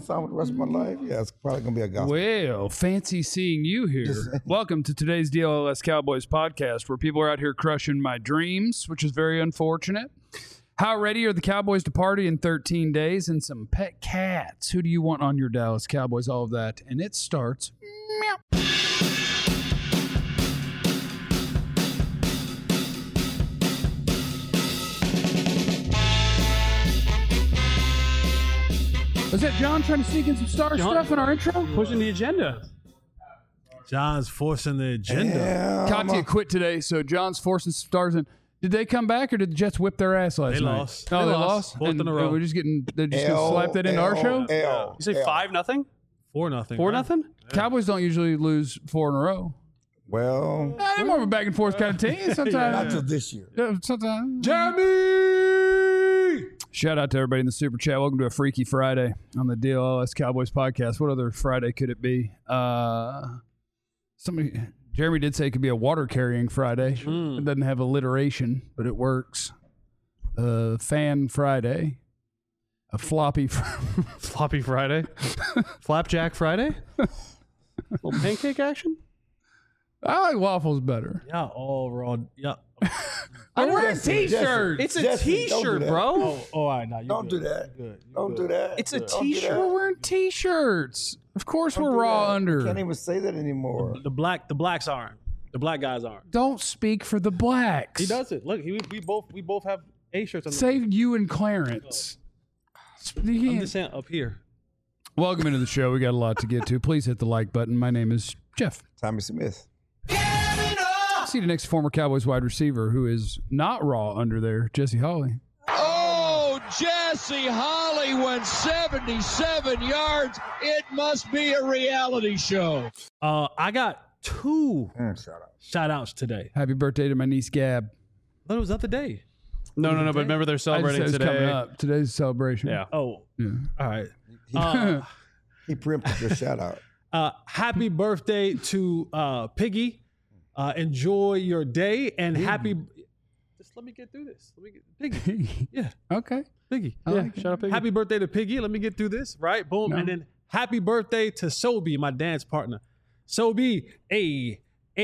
song for the rest of my life? Yeah, it's probably gonna be a gospel. Well, fancy seeing you here. Welcome to today's DLS Cowboys podcast, where people are out here crushing my dreams, which is very unfortunate. How ready are the Cowboys to party in 13 days and some pet cats? Who do you want on your Dallas Cowboys? All of that. And it starts. Meow. Was that John trying to sneak in some star stuff in our intro? Pushing the agenda. John's forcing the agenda. Yeah, Katya quit today, so John's forcing some stars in. Did they come back, or did the Jets whip their ass last night? Lost. Oh, They they lost. lost? Fourth in a row. They're just going to slap that into our show? You say 5-0? 4-0. 4-0? Cowboys don't usually lose 4 in a row. Well, They're more of a back and forth kind of team. Sometimes. not till this year. Sometimes. Jamie! Shout out to everybody in the Super Chat. Welcome to a Freaky Friday on the DLS Cowboys podcast. What other Friday could it be? Jeremy did say it could be a water carrying Friday. It doesn't have alliteration, but it works. Fan Friday. A floppy Floppy Friday. Flapjack Friday. Little pancake action. I like waffles better. Yeah, all raw. Yeah. I'm wearing t-shirts. It's a Jesse, don't do t-shirt, that. bro. All right, now you Don't do that. Good. Don't do that. It's a Don't do t-shirt. that. We're wearing t-shirts. Of course Don't we're do raw that. under. You can't even say that anymore. The blacks aren't. The black guys aren't. Don't speak for the blacks. He does it. Look, we both have A shirts on. Save you and Clarence. I'm just saying up here. Welcome into the show. We got a lot to get to. Please hit the like button. My name is Jeff. Tommy Smith. See the next former Cowboys wide receiver who is not raw under there, Jesse Holley. Oh, Jesse Holley went 77 yards. It must be a reality show. I got 2 shout outs today. Happy birthday to my niece Gab. But it was the other day. No, but remember they're I just celebrating said it's coming today. up. Today's a celebration. Yeah. Oh, Yeah. all right. He preempted your shout out. Happy birthday to Piggy. Enjoy your day and happy. Just let me get through this. Let me get Piggy. Yeah, Okay. Piggy. I Yeah, like it. Shut up, Piggy. Happy birthday to Piggy. Let me get through this. Right, boom, No. and then happy birthday to Sobi, my dance partner. Sobi, hey.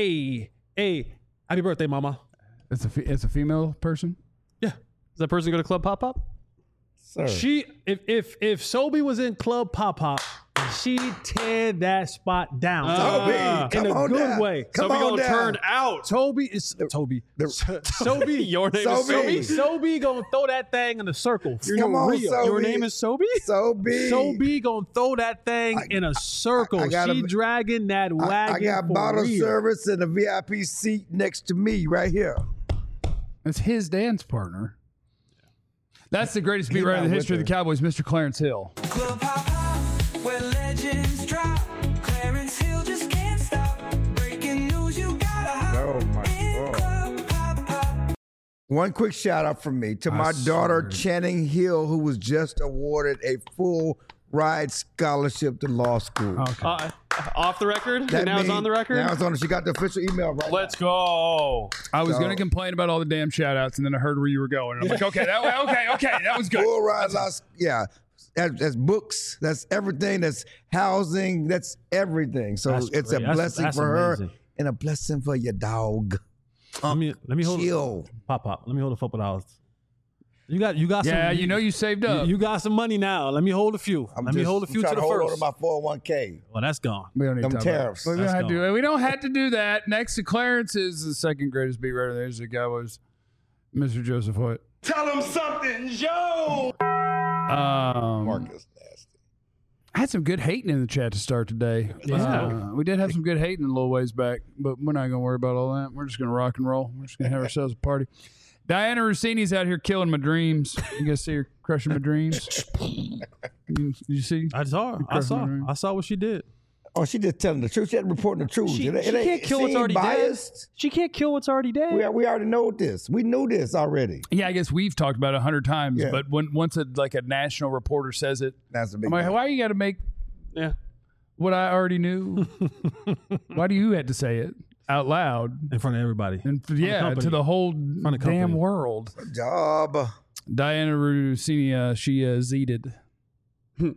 Happy birthday, mama. It's a female person. Yeah. Does that person go to Club Pop Pop? Sir. She if Sobi was in Club Pop Pop, she'd tear that spot down. Sobi, in come a on good down. way. Come So we on gonna down. turn out. Toby is Toby. Sobi. Your name is Sobi. Sobi. Sobi gonna throw that thing in a circle. Come on, real. Sobi. Your name is Sobi? Sobi. Sobi gonna throw that thing in a circle. I got She a- dragging that wagon. I got for bottle real. service and a VIP seat next to me right here. That's his dance partner. That's the greatest beat He's writer in the not history of with the Cowboys, Mr. Clarence Hill. Club Pop Pop, where legends drop. Clarence Hill just can't stop. Breaking news, you gotta hop Oh my in God. Club Pop Pop. One quick shout out from me to my daughter Channing Hill, who was just awarded a full ride scholarship to law school. Okay. Off the record? That Now it's means- on the record? Now it's on. She got the official email right. Let's go. I was So- going to complain about all the damn shout outs, and then I heard where you were going. And I'm like, okay, that was good. Full ride law. Yeah. That's books. That's everything. That's housing. That's everything. So That's it's great. a That's- blessing that's for her amazing. and a blessing for your dog. Let me hold Chill. Pop. Let me hold a couple dollars. You got Yeah, some. you know you saved up. You got some money now. Let me hold a few. Let me hold a few to trying the hold on first. to my 401k. Well, that's gone. we don't need Them to talk about it. tariffs. We don't, That's have to, gone. we don't have to do that. Next to Clarence is the second greatest beat writer there is the Cowboys, Mr. Joseph Hoyt. Tell him something, Joe. Marcus nasty. I had some good hating in the chat to start today. Yeah. We did have some good hating a little ways back, but we're not going to worry about all that. We're just going to rock and roll. We're just going to have ourselves a party. Diana Rossini's out here killing my dreams. You guys see her crushing my dreams? You see? I saw her. I saw what she did. Oh, she just telling the truth. She ain't reporting the truth. She It ain't- can't kill she what's ain't already biased. dead. She can't kill what's already dead. We already know this. We knew this already. Yeah, I guess we've talked about it 100 times, Yeah. but once a national reporter says it, That's a big I'm like, deal. why you got to make Yeah. what I already knew? Why do you have to say it out loud? In front of everybody. And yeah, company. to the whole of the damn company. Job. Diana Rossini, she zeeted.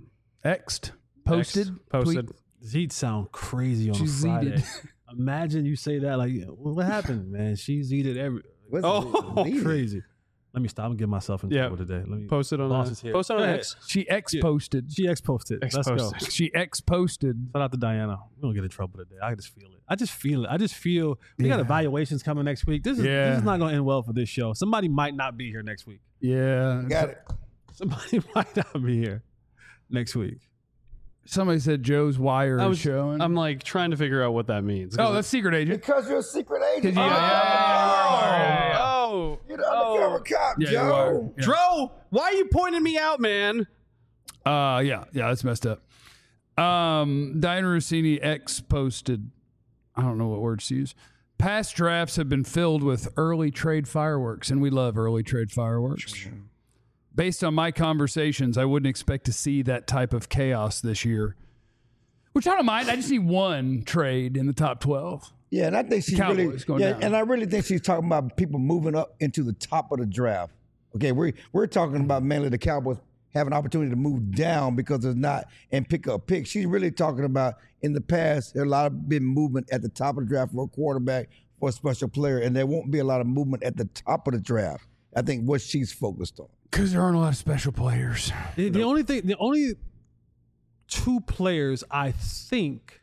X'd, posted, posted. He'd sound crazy on She's a Friday. zeeted. Imagine you say that like, what happened, man? She's eated every. What's Crazy. Let me stop. I'm gonna get myself in trouble today. Let me Post it on boss is here. Post it on Go X. She X-posted. She X-posted. Let's go. X-posted. She X-posted. Shout out to Diana. We don't get in trouble today. I just feel it. I just feel we got evaluations coming next week. This is not gonna end well for this show. Somebody might not be here next week. Yeah. Got it. Somebody might not be here next week. Somebody said Joe's wire is showing. I'm like trying to figure out what that means. Oh, that's secret agent. Because you're a secret agent. Yeah. Oh, You're the undercover cop, Yeah, you are. Joe. Yeah. Dro, why are you pointing me out, man? Yeah, that's messed up. Diana Rossini X-posted. I don't know what words to use. Past drafts have been filled with early trade fireworks, and we love early trade fireworks. Based on my conversations, I wouldn't expect to see that type of chaos this year. Which I don't mind. I just need one trade in the top 12. Yeah, and I think she's Cowboys really going down. and I really think she's talking about people moving up into the top of the draft. Okay, we're talking about mainly the Cowboys have an opportunity to move down because there's not and pick up picks. She's really talking about in the past there's a lot of been movement at the top of the draft for a quarterback, for a special player, and there won't be a lot of movement at the top of the draft. I think what she's focused on. Because there aren't a lot of special players. The only two players I think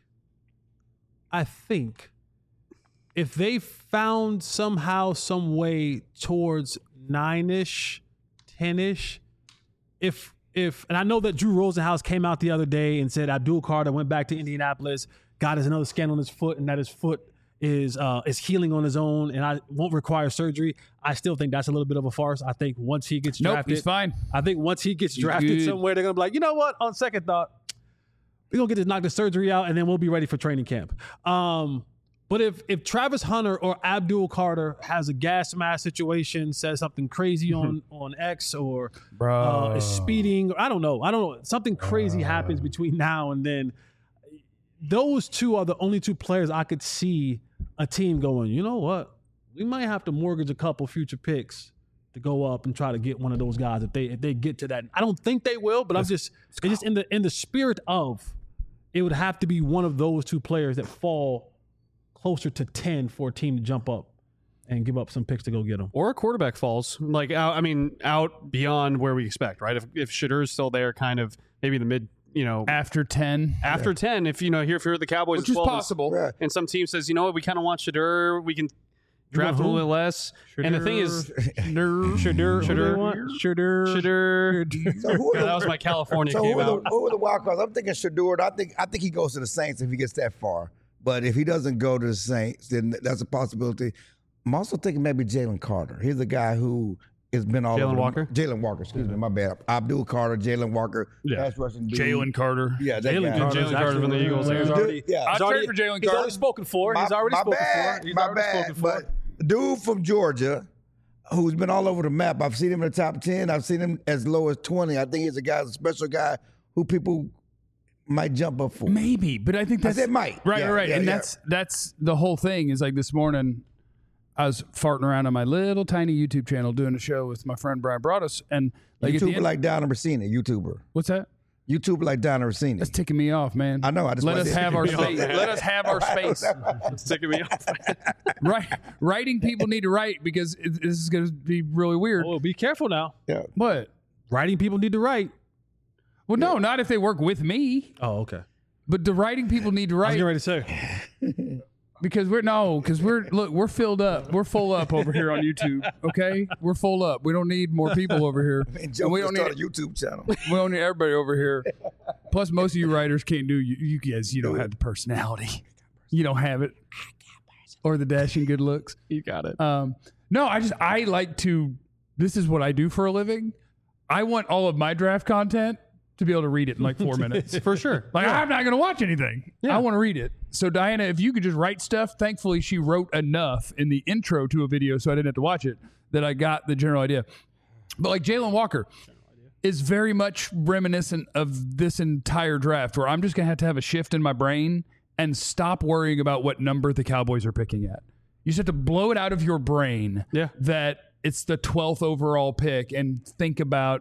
if they found somehow, some way towards 9-ish, 10-ish, if and I know that Drew Rosenhaus came out the other day and said Abdul Carter went back to Indianapolis, got us another scan on his foot, and that his foot is healing on his own and I won't require surgery. I still think that's a little bit of a farce. I think once he gets drafted, he's fine. I think once he gets drafted somewhere, they're gonna be like, you know what? On second thought, we're gonna get this knock the surgery out, and then we'll be ready for training camp. But if Travis Hunter or Abdul Carter has a gas mask situation, says something crazy on X, or is speeding, I don't know, something crazy happens between now and then. Those two are the only two players I could see a team going, you know what? We might have to mortgage a couple future picks to go up and try to get one of those guys if they get to that. I don't think they will, but it's just in the spirit of it would have to be one of those two players that fall closer to 10 for a team to jump up and give up some picks to go get them. Or a quarterback falls like out. I mean, out beyond where we expect, right? If Shedeur is still there, kind of maybe the mid. After 10. After 10, if you're the Cowboys, which is possible. And some team says, you know what, we kind of want Shedeur, we can draft a little bit less. Shedeur. And the thing is, Shedeur. So who are that was my California So came out. who are the wild cards? I'm thinking Shedeur. I think he goes to the Saints if he gets that far. But if he doesn't go to the Saints, then that's a possibility. I'm also thinking maybe Jalen Carter. He's a guy who has been all over. Jalen Walker, excuse me, my bad. Abdul Carter, Jalen Walker, pass rushing dude. Jalen Carter. Yeah, that Jalen guy. Carter from the Eagles. I'd trade for Jalen Carter. He's already spoken for. He's already spoken for. But dude from Georgia, who's been all over the map. I've seen him in the top 10. I've seen him as low as 20. I think he's a special guy who people might jump up for. Maybe, but I think that's... I said might. Right. Yeah, and yeah. that's the whole thing is like this morning... I was farting around on my little tiny YouTube channel doing a show with my friend Brian Broaddus, and like YouTuber like Donna Rossini, YouTuber. What's that? YouTuber like Donna Rossini. That's ticking me off, man. I know. Let us have our space. Let us have our space. It's ticking me off. Right, writing people need to write because this is going to be really weird. Oh, be careful now. Yeah. What? Writing people need to write. Well, no, not if they work with me. Oh, okay. But the writing people need to I was write. getting ready to say. Because we're filled up. We're full up over here on YouTube. Okay, we're full up. We don't need more people over here. And Joe we just don't need started a YouTube channel. We don't need everybody over here. Plus, most of you writers can't do you guys. You don't have the personality. You don't have it, or the dashing good looks. You got it. No, I like to. This is what I do for a living. I want all of my draft content to be able to read it in like 4 minutes. For sure. Like, I'm not going to watch anything. I want to read it. So, Diana, if you could just write stuff, thankfully she wrote enough in the intro to a video so I didn't have to watch it, that I got the general idea. But like Jalen Walker is very much reminiscent of this entire draft where I'm just going to have a shift in my brain and stop worrying about what number the Cowboys are picking at. You just have to blow it out of your brain that it's the 12th overall pick and think about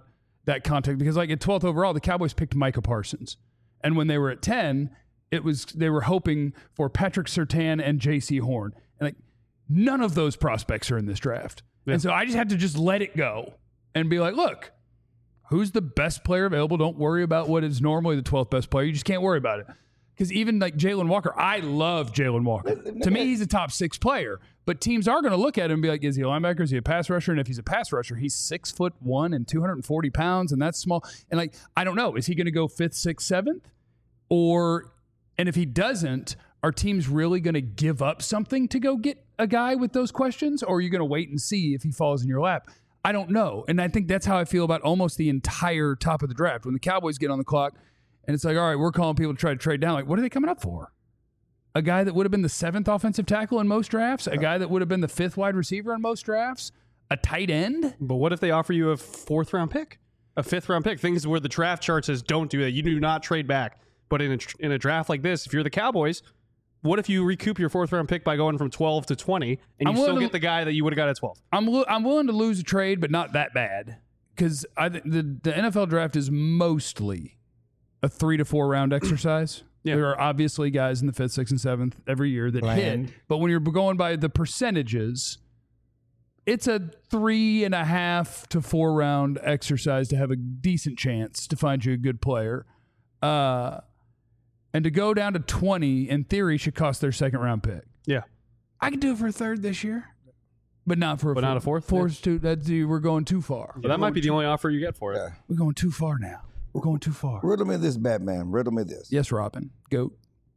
that context because like at 12th overall, the Cowboys picked Micah Parsons. And when they were at 10, they were hoping for Patrick Surtain and J.C. Horn. And like none of those prospects are in this draft. Yeah. And so I just had to just let it go and be like, look, who's the best player available? Don't worry about what is normally the 12th best player. You just can't worry about it. Because even like Jalen Walker, I love Jalen Walker. To me, he's a top 6 player. But teams are going to look at him and be like, is he a linebacker? Is he a pass rusher? And if he's a pass rusher, he's 6'1" and 240 pounds, and that's small. And like, I don't know. Is he going to go 5th, 6th, 7th? And if he doesn't, are teams really going to give up something to go get a guy with those questions? Or are you going to wait and see if he falls in your lap? I don't know. And I think that's how I feel about almost the entire top of the draft. When the Cowboys get on the clock, and it's like, all right, we're calling people to try to trade down. Like, what are they coming up for? A guy that would have been the 7th offensive tackle in most drafts? A guy that would have been the 5th wide receiver in most drafts? A tight end? But what if they offer you a 4th round pick? A 5th round pick? Things where the draft chart says don't do that. You do not trade back. But in a draft like this, if you're the Cowboys, what if you recoup your 4th round pick by going from 12 to 20 and you still get the guy that you would have got at 12? I'm willing to lose a trade, but not that bad. Because the NFL draft is mostly a 3 to 4 round exercise. Yeah. There are obviously guys in the 5th, 6th, and 7th every year that hit. But when you're going by the percentages, it's a 3.5 to 4 round exercise to have a decent chance to find you a good player. And to go down to 20, in theory, should cost their 2nd round pick. Yeah. I could do it for a 3rd this year. But not for a 4th. Not a 4th? 4's too, we're going too far. Well, that might be the only offer you get for it. Yeah. We're going too far now. We're going too far. Riddle me this, Batman. Riddle me this. Yes, Robin. Goat.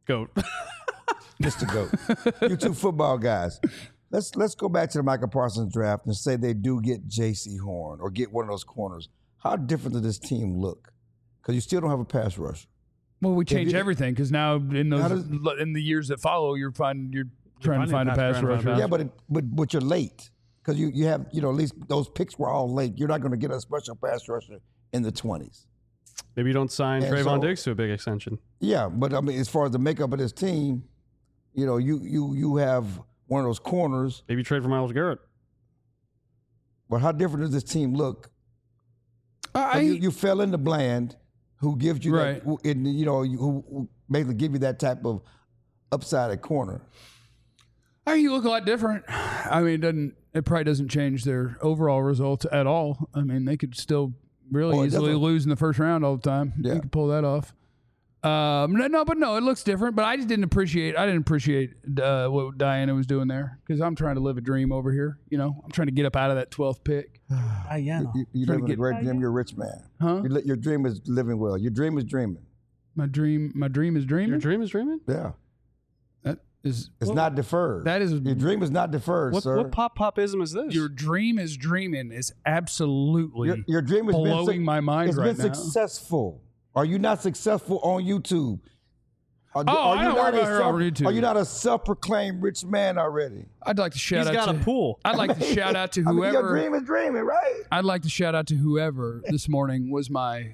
Mr. Goat. You two football guys. Let's go back to the Micah Parsons draft and say they do get J.C. Horn or get one of those corners. How different does this team look? Because you still don't have a pass rusher. Well, we change everything because now in the years that follow, you're trying to find a pass rusher. Yeah, but you're late because you have at least those picks were all late. You're not going to get a special pass rusher in the 20s. Maybe you don't sign Trayvon Diggs to a big extension. Yeah, but I mean, as far as the makeup of this team, you have one of those corners. Maybe trade for Myles Garrett. But how different does this team look? You fell into Bland, who gives you right. who basically give you that type of upside at corner. You look a lot different. I mean, it probably doesn't change their overall results at all. I mean, they could still really easily lose in the 1st round all the time. Yeah. You could pull that off. No, it looks different. But I just didn't appreciate. What Diana was doing there because I'm trying to live a dream over here. I'm trying to get up out of that 12th pick. Diana, you live in a great dream. You're a rich man. Huh? Your dream is living well. Your dream is dreaming. My dream is dreaming. Your dream is dreaming. Yeah. It's not deferred. That is your dream is not deferred, sir. What popism is this? Your dream is dreaming is absolutely your dream has blowing my mind right now. It's been successful. Are you not successful on YouTube? I don't worry about her on YouTube. Are you not a self-proclaimed rich man already? I'd like to shout out. He's got a pool. I'd like to shout out to whoever. Your dream is dreaming, right? I'd like to shout out to whoever this morning was my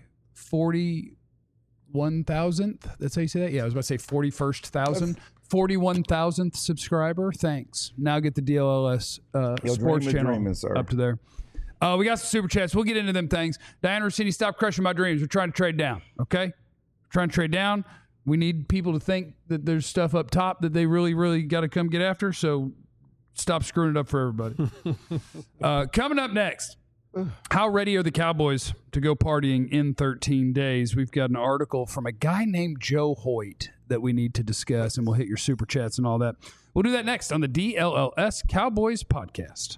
41,000th. That's how you say that? Yeah, I was about to say 41st thousand. 41,000th subscriber. Thanks. Now get the DLLS sports channel up to there. We got some super chats. We'll get into them things. Diana Rossini, stop crushing my dreams. We're trying to trade down. Okay, we're trying to trade down. We need people to think that there's stuff up top that they really, really got to come get after. So stop screwing it up for everybody. Coming up next, how ready are the Cowboys to go partying in 13 days? We've got an article from a guy named Joe Hoyt that we need to discuss, and we'll hit your super chats and all that. We'll do that next on the DLLS Cowboys podcast.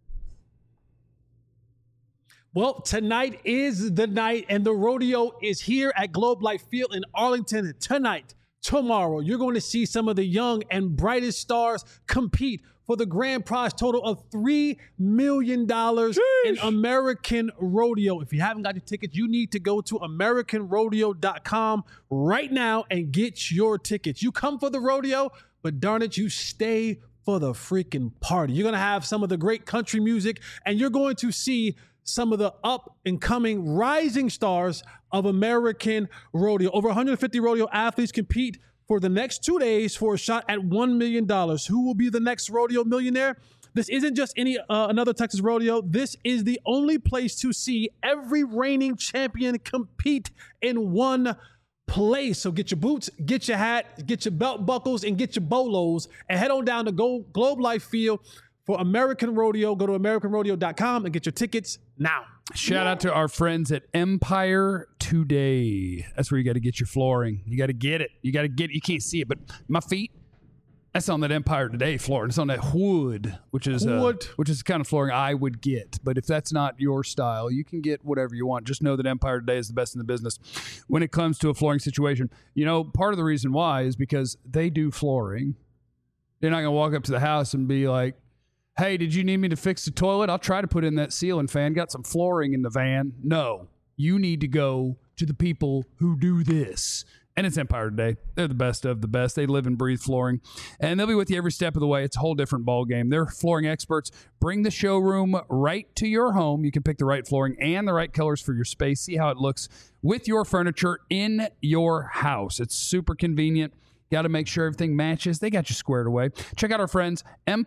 Well, tonight is the night, and the rodeo is here at Globe Life Field in Arlington. Tonight, tomorrow, you're going to see some of the young and brightest stars compete for the grand prize total of $3 million in American Rodeo. If you haven't got your tickets, you need to go to AmericanRodeo.com right now and get your tickets. You come for the rodeo, but darn it, you stay for the freaking party. You're going to have some of the great country music, and you're going to see some of the up-and-coming rising stars of American Rodeo. Over 150 rodeo athletes compete for the next 2 days for a shot at $1 million. Who will be the next rodeo millionaire? This isn't just any another Texas rodeo. This is the only place to see every reigning champion compete in one place. So get your boots, get your hat, get your belt buckles, and get your bolos, and head on down to Globe Life Field for American Rodeo. Go to AmericanRodeo.com and get your tickets now. Shout out to our friends at Empire Today. That's where you got to get your flooring. You got to get it. You can't see it, but my feet, that's on that Empire Today flooring. It's on that wood, which is the kind of flooring I would get. But if that's not your style, you can get whatever you want. Just know that Empire Today is the best in the business when it comes to a flooring situation. You know, part of the reason why is because they do flooring. They're not going to walk up to the house and be like, hey, did you need me to fix the toilet? I'll try to put in that ceiling fan. Got some flooring in the van. No, you need to go to the people who do this. And it's Empire Today. They're the best of the best. They live and breathe flooring. And they'll be with you every step of the way. It's a whole different ball game. They're flooring experts. Bring the showroom right to your home. You can pick the right flooring and the right colors for your space. See how it looks with your furniture in your house. It's super convenient. Got to make sure everything matches. They got you squared away. Check out our friends,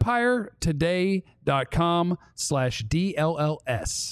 EmpireToday.com/DLLS.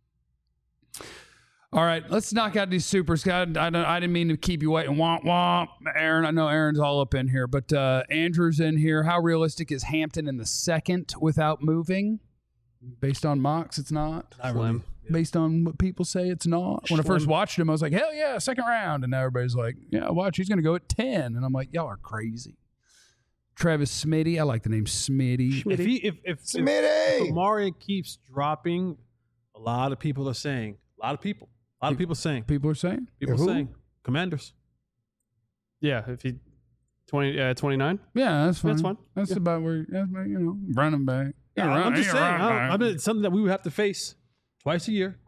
All right, let's knock out these supers. God, I didn't mean to keep you waiting. Womp, womp. Aaron, I know Aaron's all up in here, but Andrew's in here. How realistic is Hampton in the second without moving? Based on mocks, it's not. Slim. Based on what people say, it's not. When I first watched him, I was like, hell yeah, second round. And now everybody's like, yeah, watch, he's going to go at 10. And I'm like, y'all are crazy. Travis Smitty. I like the name Smitty. If Amari keeps dropping, a lot of people are saying, a lot of people saying. People are saying? People saying. Commanders. Yeah, if he 29. Yeah, that's fine. That's fine. That's about where, running back. Yeah, I'm just saying. I mean, it's something that we would have to face twice a year.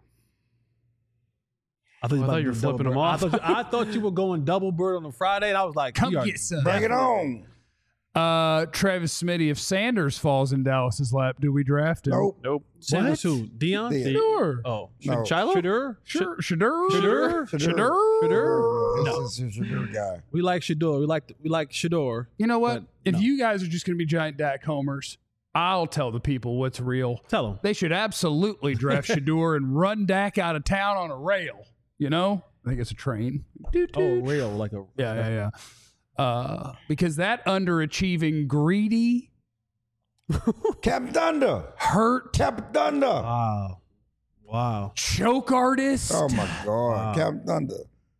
I thought you were flipping them off. I thought you were going double bird on a Friday, and I was like, come get some. Bring it on. Travis Smitty, if Sanders falls in Dallas's lap, do we draft him? Nope. Sanders who? Dion? Sure. Oh, No. Shiloh? Shadur. Shador? No. This is Shadur guy. We like Shador. We like Shador. You know what? But If no. you guys are just going to be giant Dak homers, I'll tell the people what's real. Tell them. They should absolutely draft Shadur and run Dak out of town on a rail. You know? I think it's a train. Oh, real. Like a. Yeah. Because that underachieving, greedy, Captain Thunder. hurt, Captain Thunder. Wow. choke artist. Oh my God. Captain Thunder.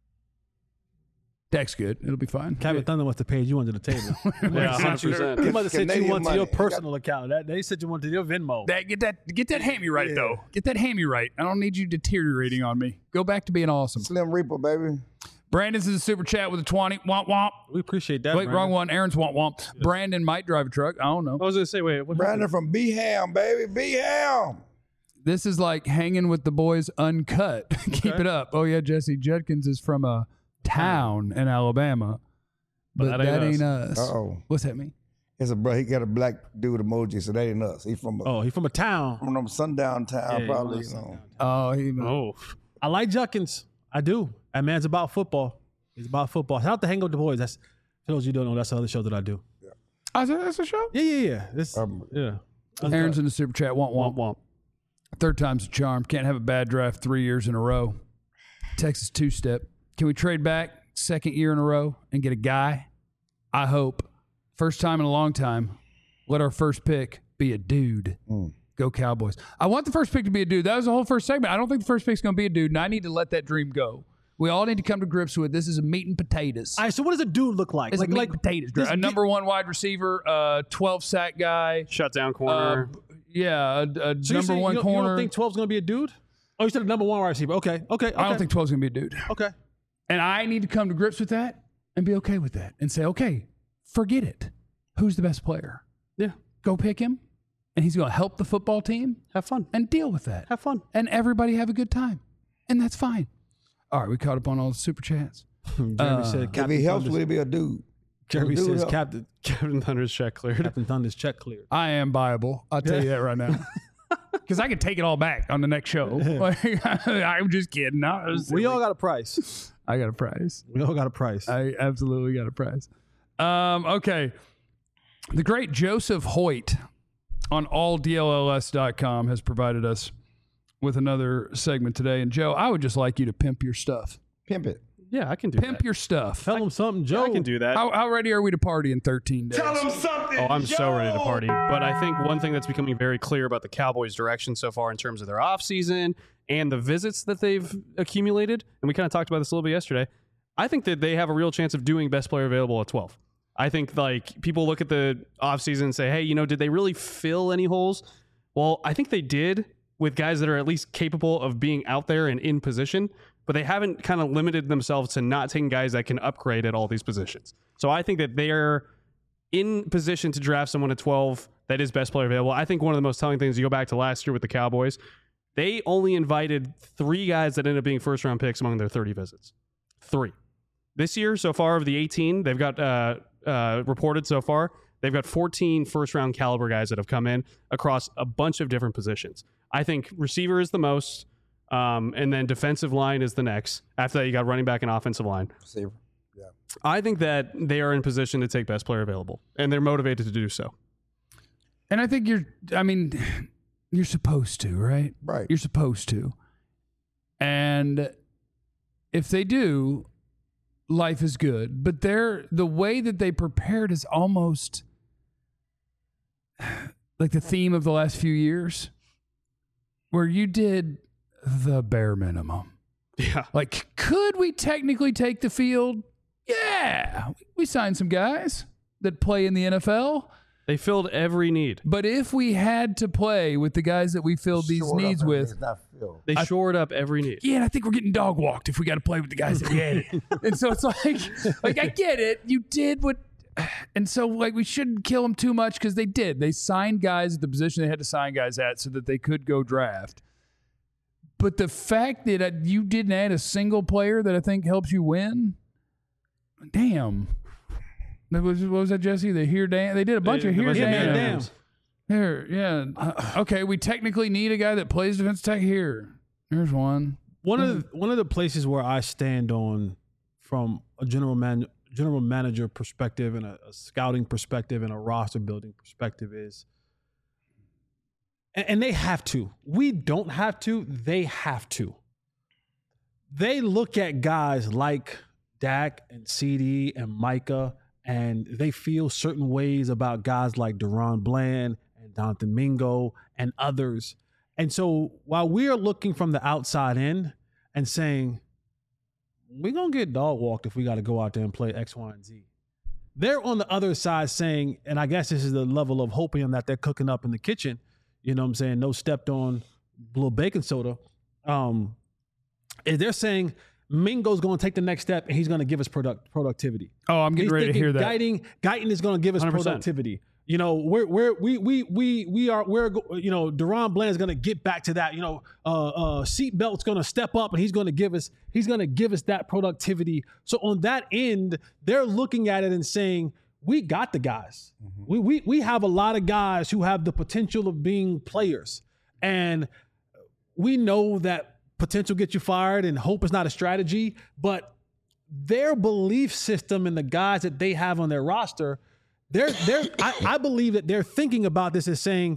Dak's good. It'll be fine. Captain Thunder wants to pay you under the table. Yeah, 100%. He must have sent you Canadian one to money. your personal account. They sent you one to your Venmo. Get that hammy right though. Get that hammy right. I don't need you deteriorating on me. Go back to being awesome. Slim Reaper, baby. Brandon's in the super chat with a 20. Womp womp. We appreciate that. Wait, Brandon. wrong one. Aaron's womp womp. Brandon might drive a truck. I don't know. I was going to say, wait. What Brandon from B-Ham, baby. B-Ham. This is like hanging with the boys uncut. Keep it up. Oh yeah, Jesse Judkins is from a town in Alabama, but that ain't us. Uh-oh. What's that mean? It's a bro. He got a black dude emoji, so that ain't us. He's from He's from a town. from sundown town, Yeah, probably. he was Oh, I like Judkins. I do. That man's about football. He's about football. Shout out to Hang Up with the Boys. That's for those you don't know. That's the other show that I do. that's a show. Yeah. This, yeah. Aaron's in the super chat. Womp womp womp. Third time's a charm. Can't have a bad draft 3 years in a row. Texas two-step. Can we trade back second year in a row and get a guy? I hope. First time in a long time. Let our first pick be a dude. Go Cowboys. I want the first pick to be a dude. That was the whole first segment. I don't think the first pick's going to be a dude, and I need to let that dream go. We all need to come to grips with this is a meat and potatoes. All right, so what does a dude look like? It's a meat and potatoes draft. A number one wide receiver, 12-sack guy. Shutdown corner. A So number one corner. You don't think 12's going to be a dude? Oh, you said a number one wide receiver. Okay. I don't think 12's going to be a dude. Okay. And I need to come to grips with that and be okay with that and say, okay, forget it. Who's the best player? Yeah. Go pick him, and he's going to help the football team Have fun. and deal with that. Have fun. And everybody have a good time. And that's fine. All right, we caught up on all the super chats. Jeremy said If Captain he helps, Thunder's, will he be a dude? Jeremy Dude says help. Captain Thunder's check cleared. Thunder's check cleared. I am viable. I'll tell you that right now. Because I can take it all back on the next show. I'm just kidding. We all got a price. I got a prize. We all got a price. I absolutely got a prize. Okay. The great Joseph Hoyt on alldlls.com has provided us with another segment today. And Joe, I would just like you to pimp your stuff. Pimp it. Yeah, I can do that. Pimp your stuff. Tell them something, Joe. I can do that. How ready are we to party in 13 days? Tell him something. Oh, I'm so ready to party. But I think one thing that's becoming very clear about the Cowboys' direction so far in terms of their offseason and the visits that they've accumulated, and we kind of talked about this a little bit yesterday, I think that they have a real chance of doing best player available at 12. I think like people look at the offseason and say, hey, did they really fill any holes? Well, I think they did with guys that are at least capable of being out there and in position, but they haven't kind of limited themselves to not taking guys that can upgrade at all these positions. So I think that they're in position to draft someone at 12 that is best player available. I think one of the most telling things, you go back to last year with the Cowboys, they only invited 3 guys that ended up being first-round picks among their 30 visits. 3. This year, so far, of the 18, they've got reported so far, they've got 14 first-round caliber guys that have come in across a bunch of different positions. I think receiver is the most, and then defensive line is the next. After that, you got running back and offensive line. Receiver. Yeah. I think that they are in position to take best player available, and they're motivated to do so. And I think you're supposed to, right? Right. You're supposed to. And if they do, life is good. But the way that they prepared is almost like the theme of the last few years, where you did the bare minimum. Yeah. Like, could we technically take the field? Yeah. We signed some guys that play in the NFL. They filled every need. But if we had to play with the guys that we filled these needs with, They shored up every need. yeah, and I think we're getting dog walked if we got to play with the guys that we had. And so it's like I get it. You did what, and so like we shouldn't kill them too much because they did. They signed guys at the position they had to sign guys at so that they could go draft. But the fact that you didn't add a single player that I think helps you win, damn. What was that, Jesse? The here damn. They did a bunch of here damn. Here, yeah. Okay, we technically need a guy that plays defense tech here. There's one. One of the places where I stand on from a general manager perspective and a scouting perspective and a roster building perspective is, and they have to. We don't have to. They have to. They look at guys like Dak and CD and Micah, and they feel certain ways about guys like Deron Bland and Don Domingo and others. And so while we are looking from the outside in and saying, we're going to get dog walked if we got to go out there and play X, Y, and Z, they're on the other side saying, and I guess this is the level of hoping that they're cooking up in the kitchen, you know what I'm saying, no stepped on little baking soda. They're saying Mingo's going to take the next step and he's going to give us productivity. Oh, I'm getting ready to hear that. Guyton is going to give us 100%. Productivity. You know, we're Deron Bland is going to get back to that. You know, Seatbelt's going to step up and he's going to give us that productivity. So on that end, they're looking at it and saying, we got the guys. Mm-hmm. We have a lot of guys who have the potential of being players, and we know that potential gets you fired and hope is not a strategy, but their belief system and the guys that they have on their roster, I believe that they're thinking about this as saying,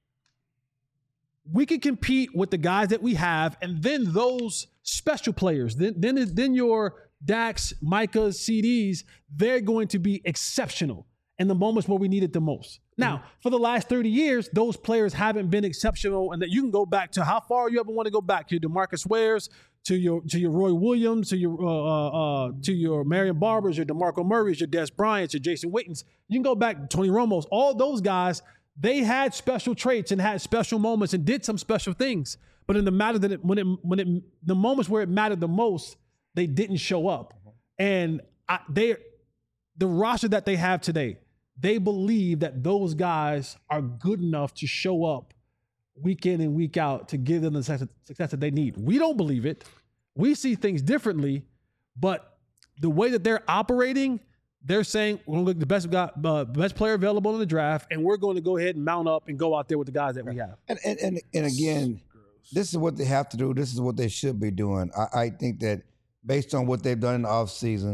we can compete with the guys that we have, and then those special players, then your Dax, Micahs, CDs, they're going to be exceptional in the moments where we need it the most. Now, for the last 30 years, those players haven't been exceptional, and that you can go back to how far you ever want to go back, to your DeMarcus Wares, to your Roy Williams, to your Marion Barbers, your DeMarco Murrays, your Des Bryants, your Jason Wittens. You can go back to Tony Romos. All those guys, they had special traits and had special moments and did some special things. But in the matter that the moments where it mattered the most, they didn't show up. And the roster that they have today, they believe that those guys are good enough to show up week in and week out to give them the success that they need. We don't believe it. We see things differently, but the way that they're operating, they're saying we're going to look the best player available in the draft, and we're going to go ahead and mount up and go out there with the guys that we have. And again, this is what they have to do. This is what they should be doing. I think that based on what they've done in the offseason,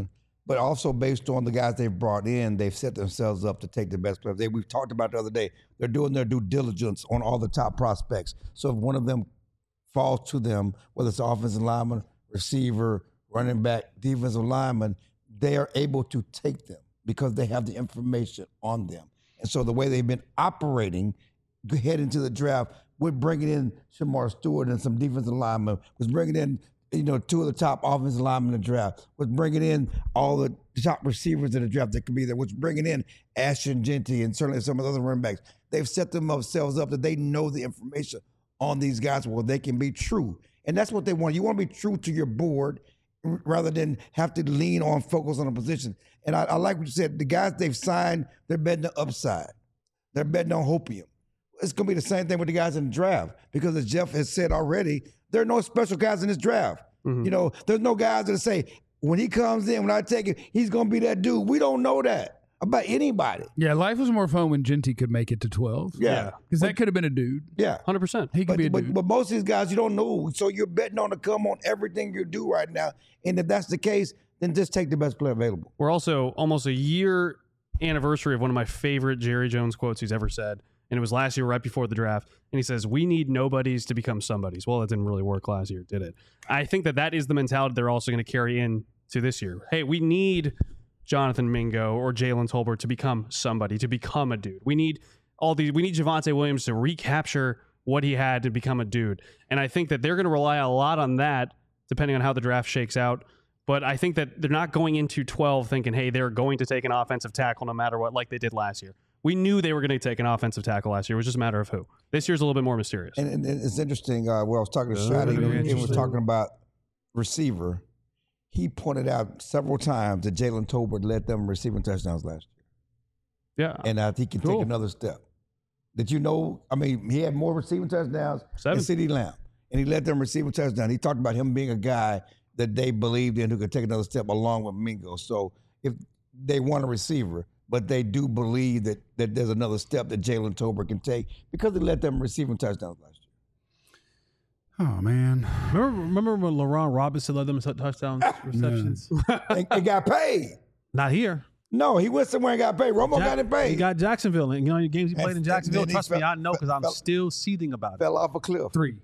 but also based on the guys they've brought in, they've set themselves up to take the best players. We've talked about the other day, they're doing their due diligence on all the top prospects. So if one of them falls to them, whether it's offensive lineman, receiver, running back, defensive lineman, they are able to take them because they have the information on them. And so the way they've been operating, head into the draft, we're bringing in Shamar Stewart and some defensive linemen, was bringing in two of the top offensive linemen in the draft, was bringing in all the top receivers in the draft that could be there, was bringing in Ashton Genty and certainly some of the other running backs. They've set themselves up that they know the information on these guys where they can be true. And that's what they want. You want to be true to your board rather than have to lean on, focus on a position. And I like what you said. The guys they've signed, they're betting the upside. They're betting on hopium. It's going to be the same thing with the guys in the draft because as Jeff has said already, there are no special guys in this draft. Mm-hmm. There's no guys that say, when he comes in, when I take it, he's going to be that dude. We don't know that about anybody. Yeah, life was more fun when Genty could make it to 12. Yeah. Because that could have been a dude. Yeah. 100%. He could be a dude. But most of these guys, you don't know. So you're betting on to come on everything you do right now. And if that's the case, then just take the best player available. We're also almost a year anniversary of one of my favorite Jerry Jones quotes he's ever said. And it was last year right before the draft. And he says, we need nobodies to become somebodies. Well, that didn't really work last year, did it? I think that is the mentality they're also going to carry in to this year. Hey, we need Jonathan Mingo or Jalen Tolbert to become somebody, to become a dude. We need Javonte Williams to recapture what he had to become a dude. And I think that they're going to rely a lot on that, depending on how the draft shakes out. But I think that they're not going into 12 thinking, hey, they're going to take an offensive tackle no matter what, like they did last year. We knew they were going to take an offensive tackle last year. It was just a matter of who. This year's a little bit more mysterious. And it's interesting. Where I was talking to Shadi, he was talking about receiver. He pointed out several times that Jalen Tolbert led them receiving touchdowns last year. Yeah. And I think he can take another step. Did you know? I mean, he had more receiving touchdowns than CeeDee Lamb, and he led them receiving touchdowns. He talked about him being a guy that they believed in who could take another step along with Mingo. So if they want a receiver, but they do believe that there's another step that Jalen Tolbert can take because he led them receiving touchdowns last year. Oh, man. Remember when LaRon Robinson led them touchdowns, receptions? and got paid. Not here. No, he went somewhere and got paid. Romo got him paid. He got Jacksonville. And the games he played in Jacksonville, trust me, I know because I'm still seething about it. Fell off a cliff. 3.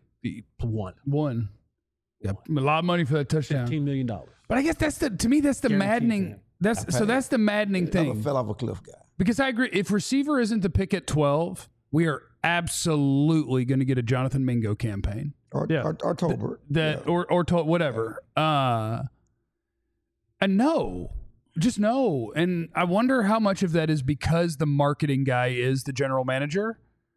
1. Yeah, a lot of money for that touchdown. $15 million. But I guess that's the maddening. That's the maddening thing. Fell off a cliff guy. Because I agree, if receiver isn't the pick at 12, we are absolutely going to get a Jonathan Mingo campaign. Or Tolbert. Whatever. And no. Just no. And I wonder how much of that is because the marketing guy is the general manager,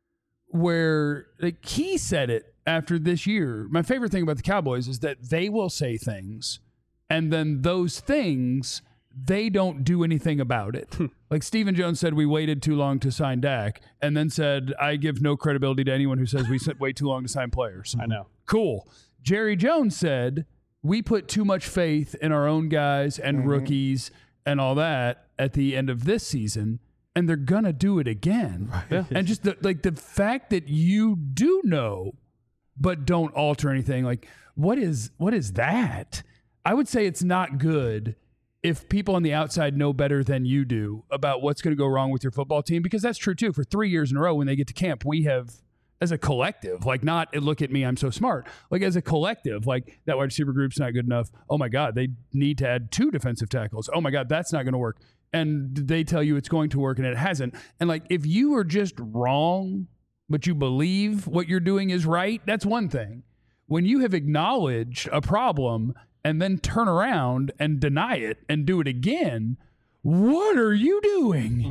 where he said it after this year. My favorite thing about the Cowboys is that they will say things, and then those things, they don't do anything about it. Like Stephen Jones said, we waited too long to sign Dak, and then said, I give no credibility to anyone who says we wait too long to sign players. I know. Cool. Jerry Jones said, we put too much faith in our own guys and rookies and all that at the end of this season, and they're going to do it again. Right. Yeah. And just the fact that you do know but don't alter anything, like what is that? I would say it's not good if people on the outside know better than you do about what's going to go wrong with your football team, because that's true too. For 3 years in a row when they get to camp, we have, as a collective, like not look at me, I'm so smart. Like as a collective, like that wide receiver group's not good enough. Oh my God, they need to add 2 defensive tackles. Oh my God, that's not going to work. And they tell you it's going to work and it hasn't. And like if you are just wrong, but you believe what you're doing is right, that's one thing. When you have acknowledged a problem and then turn around and deny it and do it again, what are you doing?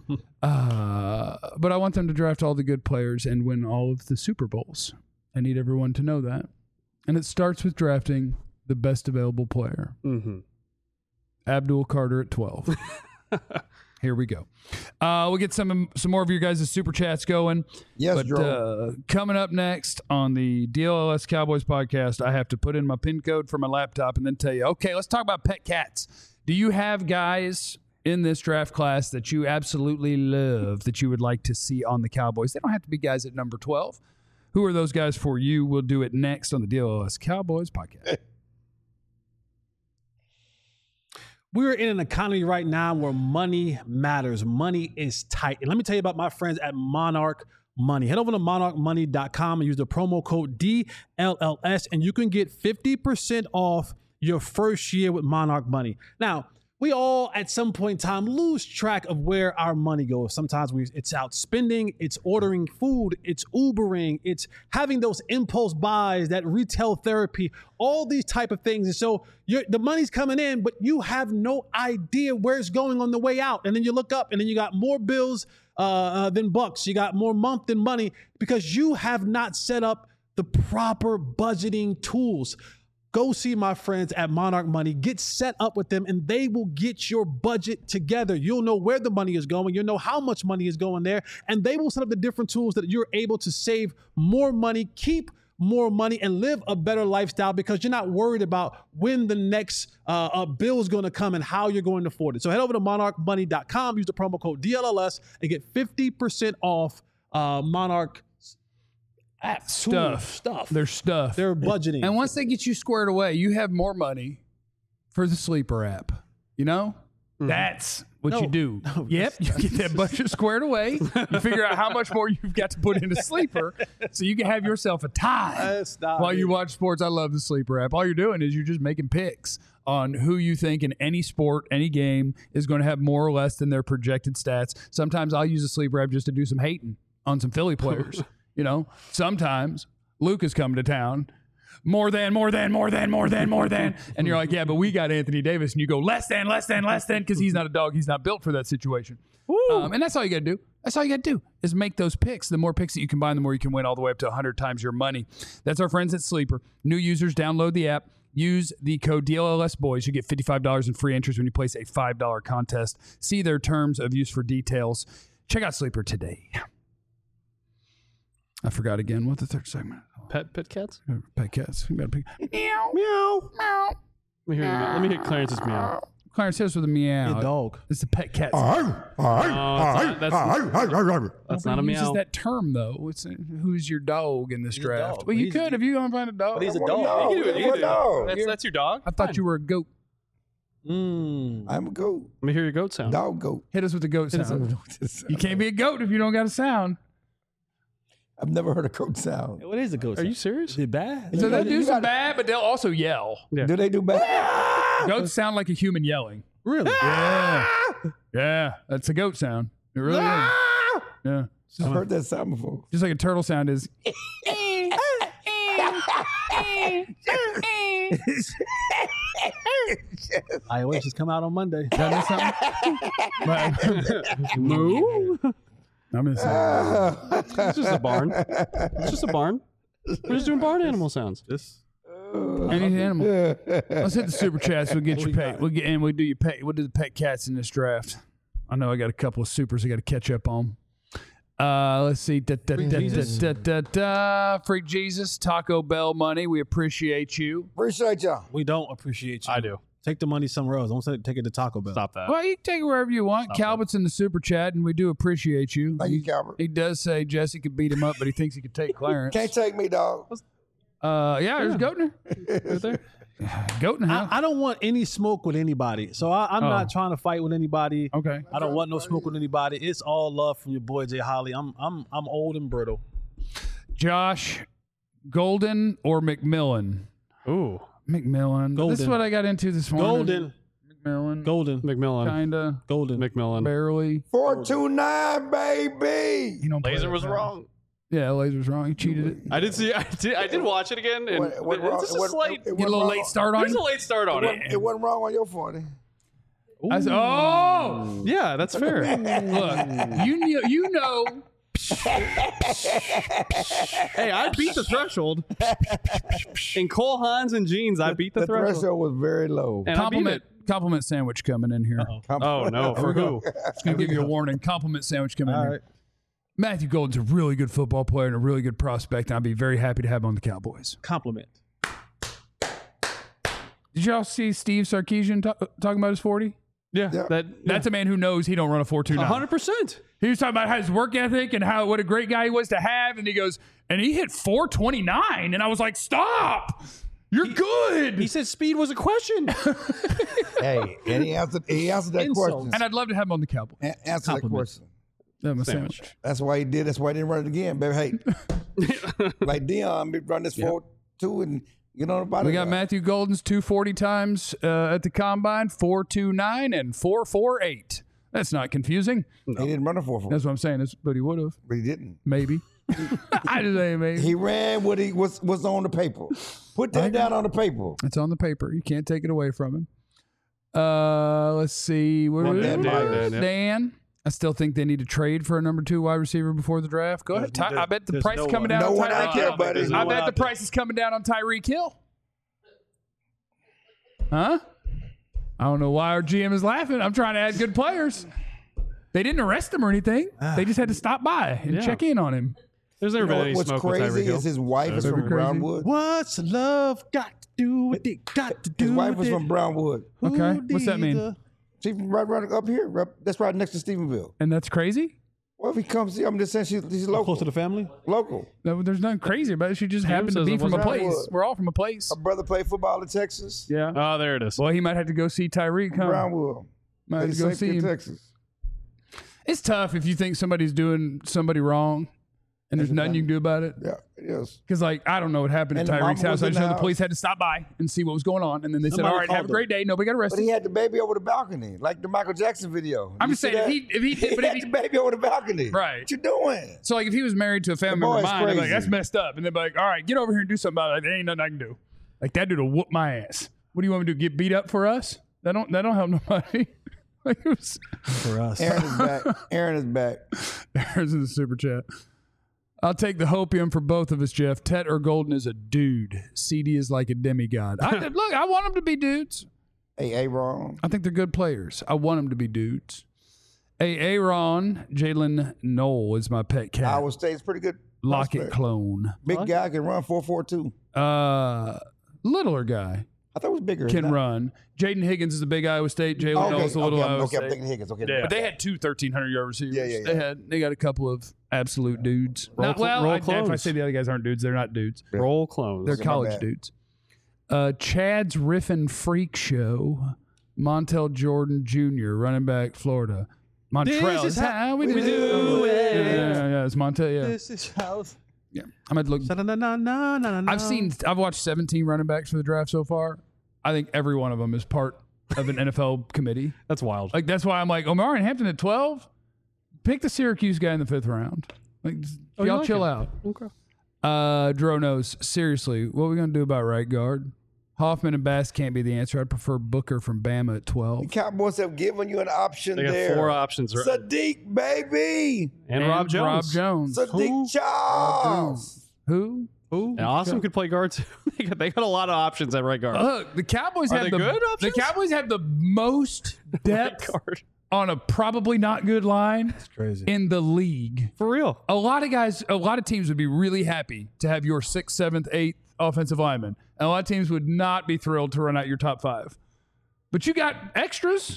But I want them to draft all the good players and win all of the Super Bowls. I need everyone to know that. And it starts with drafting the best available player. Mm-hmm. Abdul Carter at 12. Here we go. We'll get some more of your guys' super chats going. Yes, but coming up next on the DLLS Cowboys podcast, I have to put in my PIN code for my laptop and then tell you, okay, let's talk about pet cats. Do you have guys in this draft class that you absolutely love that you would like to see on the Cowboys? They don't have to be guys at number 12. Who are those guys for you? We'll do it next on the DLLS Cowboys podcast. We're in an economy right now where money matters. Money is tight. And let me tell you about my friends at Monarch Money. Head over to monarchmoney.com and use the promo code DLLS, and you can get 50% off your first year with Monarch Money. Now, we all at some point in time lose track of where our money goes. Sometimes it's out spending, it's ordering food, it's Ubering, it's having those impulse buys, that retail therapy, all these type of things. And so the money's coming in, but you have no idea where it's going on the way out. And then you look up and then you got more bills than bucks. You got more month than money because you have not set up the proper budgeting tools. Go see my friends at Monarch Money. Get set up with them, and they will get your budget together. You'll know where the money is going. You'll know how much money is going there, and they will set up the different tools that you're able to save more money, keep more money, and live a better lifestyle because you're not worried about when the next bill is going to come and how you're going to afford it. So head over to monarchmoney.com, use the promo code DLLS, and get 50% off Monarch stuff. Their budgeting. And once they get you squared away, you have more money for the Sleeper app. You know? That's what you do. Yep. You get that budget squared away. You figure out how much more you've got to put into Sleeper so you can have yourself a time while you watch sports. I love the Sleeper app. All you're doing is you're just making picks on who you think in any sport, any game is going to have more or less than their projected stats. Sometimes I'll use the Sleeper app just to do some hating on some Philly players. You know, sometimes Luke is coming to town. More than. And you're like, yeah, but we got Anthony Davis. And you go, less than, because he's not a dog. He's not built for that situation. And that's all you got to do. That's all you got to do is make those picks. The more picks that you combine, the more you can win all the way up to 100 times your money. That's our friends at Sleeper. New users, download the app. Use the code DLLSBOYS. You get $55 in free interest when you place a $5 contest. See their terms of use for details. Check out Sleeper today. I forgot again what the third segment. Pet cats? Pet cats. We got a pig. Meow. Meow. Meow. Let me hear Clarence's meow. Clarence hits with a meow. A dog. It's the pet cat. That's not a meow. Uses that term though. It's who's your dog in this draft? Well, you could if you want to find a dog. But he's a dog. You can do it. That's your dog. I thought you were a goat. I'm a goat. Let me hear your goat sound. Dog goat. Hit us with the goat sound. You can't be a goat if you don't got a sound. I've never heard a goat sound. What is a goat sound? Are you serious? Is it bad? So they do some bad, but they'll also yell. Yeah. Do they do bad? Goats sound like a human yelling. Really? Yeah. Yeah. That's a goat sound. It really is. Yeah. I've heard that sound before. Just like a turtle sound is. iOS just come out on Monday. That something? Moo? I'm gonna say It's just a barn. It's just a barn. We're just doing barn animal sounds. any animal. Let's hit the super chats. We'll get your pay. We'll do your pay. We'll do the pet cats in this draft. I know I got a couple of supers I got to catch up on. Let's see. Freak Jesus, Taco Bell money. We appreciate you. Appreciate y'all. We don't appreciate you. I do. Take the money somewhere else. Don't take it to Taco Bell. Stop that. Well, you can take it wherever you want. Calvert's in the super chat, and we do appreciate you. Thank you, Calvert. He does say Jesse could beat him up, but he thinks he could take Clarence. Can't take me, dog. Yeah, there's Goatner. Right there. Goatner. I don't want any smoke with anybody. So I'm not trying to fight with anybody. Okay. I don't want no smoke with anybody. It's all love from your boy Jay Holly. I'm old and brittle. Josh, Golden or McMillan? Ooh. McMillan. Golden. This is what I got into this morning. Golden. McMillan. Kinda. Golden. McMillan. Barely. 429, baby. You don't play Laser that was fast. wrong. Yeah, Laser's wrong. He cheated it. I did watch it again, and it's just a slight. Get a little late start on There's it. a late start on it. It wasn't wrong on your 40. I said, oh, Yeah, that's fair. look, you know. Hey, I beat the threshold. In Cole Hans and jeans, I beat the The threshold. threshold was very low. And I beat it. Compliment sandwich coming in here. Oh no, for who? Just gonna give you a warning. Compliment sandwich coming in All here. right. Matthew Golden's a really good football player and a really good prospect, and I'd be very happy to have him on the Cowboys. Compliment. Did y'all see Steve Sarkisian talking about his 40? Yeah, That's a man who knows he don't run a 4.29. 100%. He was talking about how his work ethic and what a great guy he was to have, and he goes, and he hit 4.29, and I was like, stop! You're good. He said speed was a question. Hey, and he answered that question. And I'd love to have him on the Cowboys. Answer that question. That was sandwich. That's why he did. That's why he didn't run it again, baby. Hey, like Dion, run this 4-2 and get on the bottom. We got Matthew Golden's 240 times at the combine, 4.29 and 4.48. That's not confusing. He didn't run a 4-4. That's what I'm saying. But he would have. But he didn't. Maybe. I just say maybe. He ran what he was on the paper. Put that down on the paper. It's on the paper. You can't take it away from him. Let's see. Dan. I still think they need to trade for a number 2 wide receiver before the draft. Go ahead. I bet the price is coming down on Tyreek Hill. I bet the price is coming down on Tyreek Hill. Huh? I don't know why our GM is laughing. I'm trying to add good players. They didn't arrest him or anything. They just had to stop by and check in on him. There's never been any What's smoke with Tyreek crazy Hill. is his wife is from Brownwood. What's love got to do with it? Got to do His wife with was it. from Brownwood. Okay. What's that mean? She's right up here. That's right next to Stephenville. And that's crazy? Well, if he comes here, I'm just saying she's local. Close to the family? Local. No, there's nothing crazy about it. She just happened to be from a place. Brownwood. We're all from a place. Her brother played football in Texas. Yeah. Oh, there it is. Well, he might have to go see Tyreek. Huh? Brownwood. Might have to go St. see him. Texas. It's tough if you think somebody's doing somebody wrong and there's nothing you can do about it. Yeah, it is. Because, like, I don't know what happened And at the mama Tyreek's house. was I in just know the the house. police had to stop by and see what was going on. And then they said, Somebody all right, have a called great day. Nobody got But arrested. he had the baby over the balcony, like the Michael Jackson video. I'm You just see saying, that? if he did, but if had he, the baby over the balcony. Right. What you doing? so, like, if he was married to a family The member of boy's mine, I'd be like, crazy. that's messed up. And they'd be like, all right, get over here and do something about it. There ain't nothing I can do. Like, that dude will whoop my ass. What do you want me to do? Get beat up for us? That don't help nobody. Like, it was, For us. Aaron is back. Aaron is back. There's in the super chat. I'll take the hopium for both of us, Jeff. Tet or Golden is a dude. CD is like a demigod. Look, I want them to be dudes. Hey, Aaron. I think they're good players. I want them to be dudes. Hey, Aaron, Jalen Knoll is my pet cat. Iowa State's pretty good. Lockett prospect. clone. Big guy can run 4.42. Littler guy I thought it was bigger. can Isn't it? run. Jaden Higgins is the big Iowa State. Jalen Knoll is the little Iowa I'm State. thinking Higgins. Okay, Yeah, but they had 2 1,300-yard receivers. Yeah. They got a couple of absolute dudes. If I clones. say the other guys aren't dudes, they're not dudes. Roll clones. They're my college bad. dudes. Chad's Riffin Freak Show. Montel Jordan Jr., running back, Florida. Montrell. This is how we we do it. Yeah, it's Montel. Yeah, This is how. yeah. I'm gonna look. I've watched 17 running backs for the draft so far. I think every one of them is part of an NFL committee. That's wild. Like that's why I'm like Omar and Hampton at 12. Pick the Syracuse guy in the 5th round. Like y'all like chill it. out. Okay. Dro knows. Seriously, what are we gonna do about right guard? Hoffman and Bass can't be the answer. I'd prefer Booker from Bama at 12. The Cowboys have given you an option They got there. 4 options. Right? Sadiq, baby. And Rob Jones. Rob Jones. Sadiq Charles. Who? And Awesome could play guard too. they got a lot of options at right guard. Look, the Cowboys Are have they the good the options? Cowboys have the most depth guard. on a probably not good line Crazy. in the league. For real. A lot of teams would be really happy to have your 6th, 7th, 8th offensive lineman. And a lot of teams would not be thrilled to run out your top 5. But you got extras.